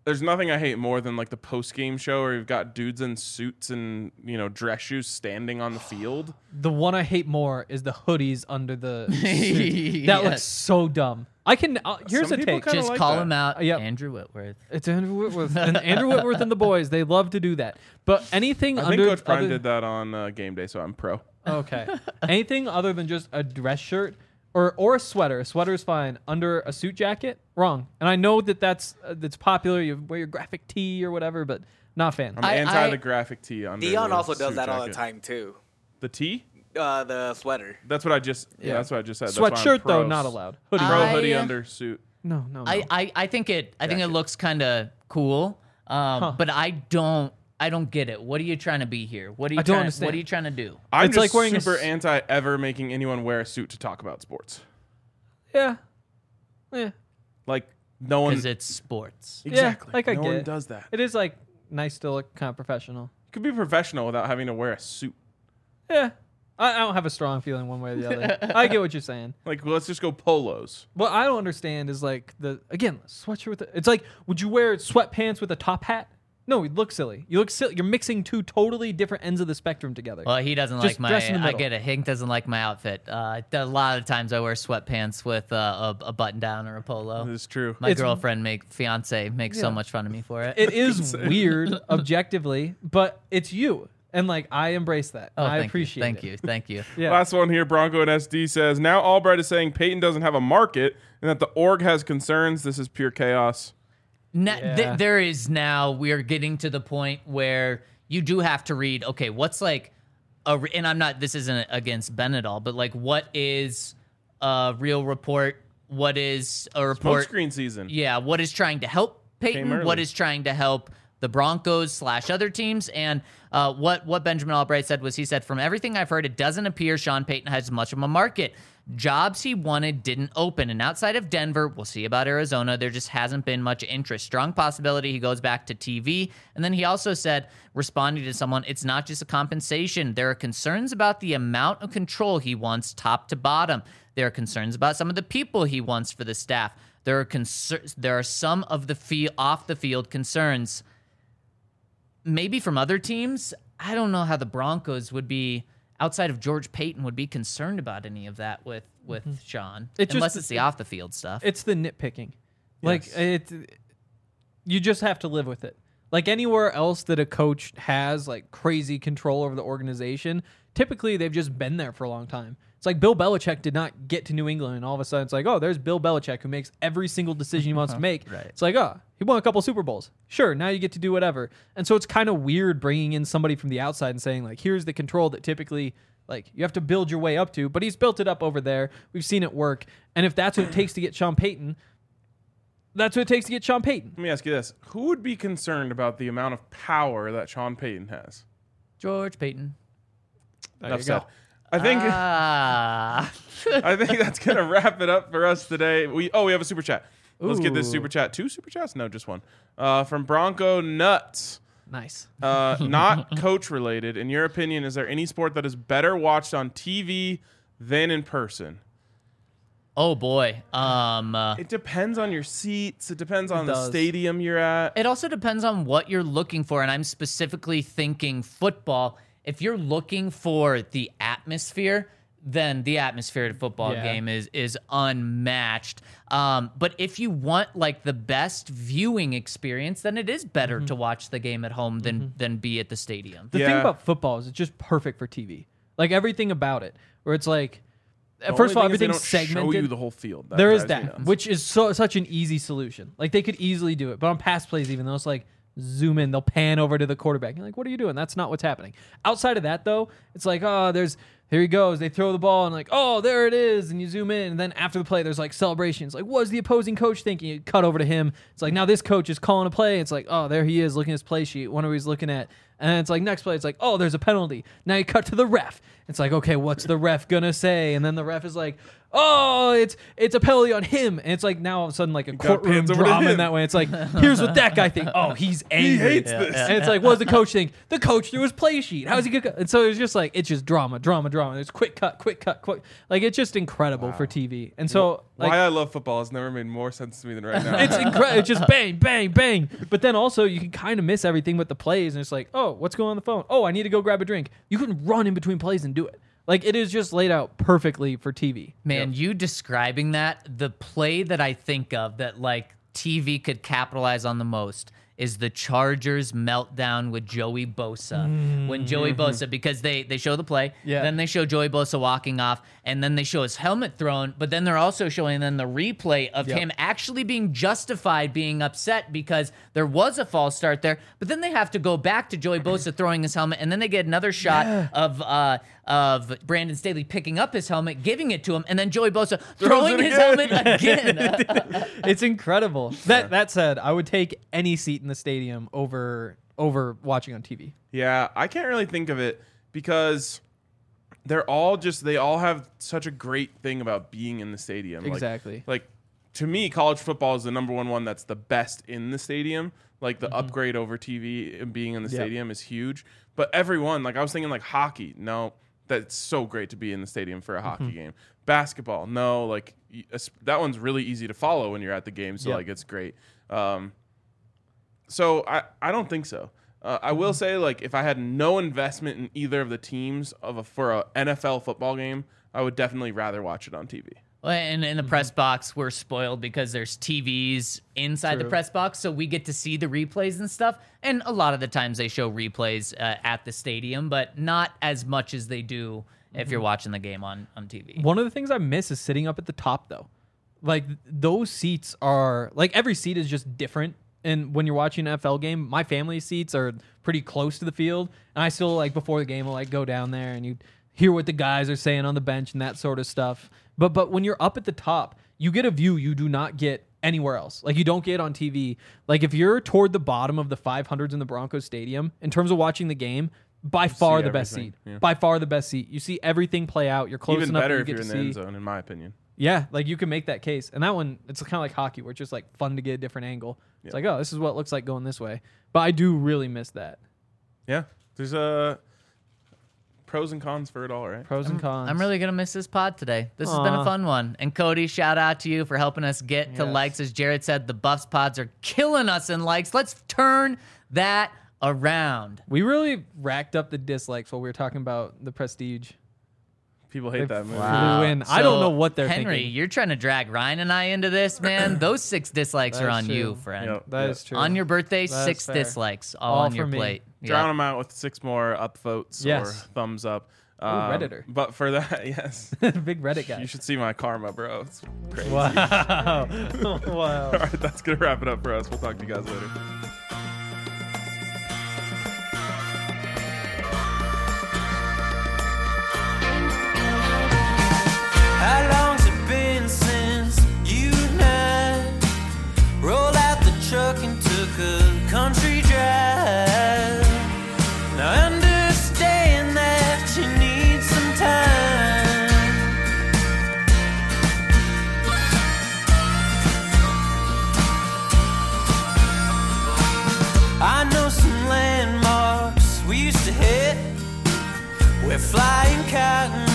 There's nothing I hate more than like the post game show where you've got dudes in suits and you know dress shoes standing on the field. The one I hate more is the hoodies under the suit. That Yes. looks so dumb. I can. Uh, here's Some a people take. kinda Just like call that. him out, Uh, yep. Andrew Whitworth. It's Andrew Whitworth and Andrew Whitworth and the boys. They love to do that. But anything I think under Coach Prime other, did that on uh, game day, so I'm pro. Okay. Anything other than just a dress shirt or or a sweater. A sweater is fine. Under a suit jacket, wrong. And I know that that's uh, that's popular. You wear your graphic tee or whatever, but not a fan. I'm I- anti I- the graphic tee on. Dion also does that all the time too. The tee? Uh, the sweater. That's what I just. Yeah, Yeah. that's what I just said. That's why I'm Sweatshirt though, pro- not allowed. Hoodie. Pro I- hoodie under suit. no, no, no. I, I, I think it I think it Jacket. looks kind of cool, um, Huh. but I don't I don't get it. What are you trying to be here? What are you I don't trying? understand. What are you trying to do? I'm It's just like wearing a super s- anti ever making anyone wear a suit to talk about sports. yeah. Yeah. Like no one. Because it's sports. Exactly. like I no get one it. does that. It is like nice to look kind of professional. You could be professional without having to wear a suit. Yeah. I, I don't have a strong feeling one way or the other. I get what you're saying. Like, well, let's just go polos. What I don't understand is like the again sweatshirt with the, it's like would you wear sweatpants with a top hat? No, you look silly. You look silly. You're mixing two totally different ends of the spectrum together. Well, he doesn't Just like my. dress in the I middle. get it. Hank doesn't like my outfit. Uh, a lot of times I wear sweatpants with uh, a, a button down or a polo. It's true. My It's- girlfriend, make fiance, makes so Yeah. much fun of me for it. It is weird objectively, but it's you, and like I embrace that. oh, and I thank appreciate you. Thank it. you. Thank you. Yeah. Last one here, Bronco and S D says, now Albright is saying Peyton doesn't have a market and that the org has concerns. This is pure chaos. Na- Yeah. th- there is now, we are getting to the point where you do have to read, okay, what's like, a re- and I'm not, this isn't against Ben at all, but like, what is a real report? What is a Smoke report? screen season. Yeah, what is trying to help Came Peyton? early. What is trying to help the Broncos slash other teams? And uh, what what Benjamin Albright said was he said, from everything I've heard, it doesn't appear Sean Payton has much of a market. Jobs he wanted didn't open. And outside of Denver, we'll see about Arizona, there just hasn't been much interest. Strong possibility he goes back to T V. And then he also said, responding to someone, it's not just a compensation. There are concerns about the amount of control he wants top to bottom. There are concerns about some of the people he wants for the staff. There are concerns. There are some of the fee- off the field concerns. Maybe from other teams. I don't know how the Broncos would be, outside of George Payton, would be concerned about any of that with with Sean, It just- unless it's the off the field stuff. It's the nitpicking. Like Yes. it you just have to live with it. Like anywhere else that a coach has like crazy control over the organization, typically they've just been there for a long time. It's like Bill Belichick did not get to New England and all of a sudden it's like, oh, there's Bill Belichick who makes every single decision he wants to make. Right. It's like, oh, he won a couple Super Bowls. Sure, now you get to do whatever. And so it's kind of weird bringing in somebody from the outside and saying like, here's the control that typically like you have to build your way up to, but he's built it up over there. We've seen it work. And if that's what it takes to get Sean Payton, that's what it takes to get Sean Payton. Let me ask you this. Who would be concerned about the amount of power that Sean Payton has? George Payton. Enough said. I think Ah. I think that's gonna wrap it up for us today. We oh we have a super chat. Let's get this Ooh. super chat. Two super chats? No, just one. Uh, from Bronco Nuts. Nice. Uh, not coach related. In your opinion, is there any sport that is better watched on T V than in person? Oh boy. Um. uh, It depends on your seats. It depends on the does. stadium you're at. It also depends on what you're looking for, and I'm specifically thinking football. If you're looking for the atmosphere, then the atmosphere at a football Yeah. game is is unmatched. Um, but if you want like the best viewing experience, then it is better to watch the game at home than than be at the stadium. The Yeah. thing about football is it's just perfect for T V. Like everything about it, where it's like, The first of all, only thing is they everything's don't segmented. Show you the whole field. That there is drives me that, nuts. which is so such an easy solution. Like they could easily do it, but on pass plays, even though it's like zoom in, they'll pan over to the quarterback. You're like, what are you doing? That's not what's happening. Outside of that, though, it's like, oh, there's here he goes. They throw the ball and like, oh, there it is, and you zoom in, and then after the play, there's like celebrations. Like, what's the opposing coach thinking? You cut over to him. It's like now this coach is calling a play. It's like, oh, there he is looking at his play sheet. Wonder what he's looking at. And then it's like next play, it's like, oh, there's a penalty. Now you cut to the ref. It's like, okay, what's the ref gonna say? And then the ref is like, oh, it's it's a penalty on him, and it's like now all of a sudden like a got courtroom pans over to drama in him. that way. It's like here's what that guy thinks. Oh, he's angry. hates this. And it's like, what does the coach think? The coach threw his play sheet. How's he gonna? And so it's just like it's just drama, drama, drama. There's quick cut, quick cut, quick. Like it's just incredible for T V. And so like, Why I love football has never made more sense to me than right now. it's incredible. It's just bang, bang, bang. But then also you can kind of miss everything with the plays, and it's like, oh, what's going on the phone? Oh, I need to go grab a drink. You can run in between plays and do it. Like it is just laid out perfectly for T V. Man, you describing that, the play that I think of that like T V could capitalize on the most is the Chargers meltdown with Joey Bosa. Mm-hmm. When Joey Bosa, because they they show the play, Yeah. then they show Joey Bosa walking off, and then they show his helmet thrown, but then they're also showing then the replay of Yep. him actually being justified being upset because there was a false start there, but then they have to go back to Joey Bosa throwing his helmet, and then they get another shot Yeah. of uh of Brandon Staley picking up his helmet, giving it to him, and then Joey Bosa throwing it his again. helmet again. It's incredible. That that said, I would take any seat in the stadium over over watching on T V. Yeah, I can't really think of it because they're all just they all have such a great thing about being in the stadium. Like- Exactly. Like, to me, college football is the number one one that's the best in the stadium. Like the upgrade over T V and being in the Yep. stadium is huge. But everyone, like I was thinking like hockey. No, that's so great to be in the stadium for a hockey game. Basketball, no, like y- es- that one's really easy to follow when you're at the game. So Yep. like it's great. Um, so I, I don't think so. Uh, I will say, like, if I had no investment in either of the teams of a, for a N F L football game, I would definitely rather watch it on T V. Well, And in the press box, we're spoiled because there's T Vs inside the True. press box, so we get to see the replays and stuff. And a lot of the times they show replays uh, at the stadium, but not as much as they do if you're watching the game on, on T V. One of the things I miss is sitting up at the top though. Like those seats are like every seat is just different. And when you're watching an N F L game, my family seats are pretty close to the field, and I still like before the game will like go down there and you hear what the guys are saying on the bench and that sort of stuff. But but when you're up at the top, you get a view you do not get anywhere else. Like you don't get on T V. Like if you're toward the bottom of the five hundreds in the Broncos stadium in terms of watching the game, by far the best everything, seat. yeah. By far the best seat. You see everything play out. You're close Even enough better that if you you're get in to the see. end zone, in my opinion. Yeah, like you can make that case. And that one, it's kind of like hockey where it's just like fun to get a different angle. It's Yeah. like, oh, this is what it looks like going this way. But I do really miss that. Yeah, there's uh, pros and cons for it all, right? Pros and cons. I'm really going to miss this pod today. This has been a Aw. fun one. And Cody, shout out to you for helping us get to Yes. likes. As Jared said, the Buffs pods are killing us in likes. Let's turn that around. We really racked up the dislikes while we were talking about the Prestige. People hate that movie. Wow. win. I don't know what they're Henry, thinking. you're trying to drag Ryan and I into this, man. Those six dislikes are That's on true. you, friend. Yep. That Yep. is true. On your birthday, That's six fair. dislikes, all, All on your for me. plate. Drown Yep. them out with six more upvotes or Yes. thumbs up. Um, Redditor. But for that, yes, Big Reddit guy. you should see my karma, bro. It's crazy. Wow. wow. All right, that's gonna wrap it up for us. We'll talk to you guys later. How long's it been since you and I rolled out the truck and took a country drive? Now I understand that you need some time. I know some landmarks we used to hit where flying cotton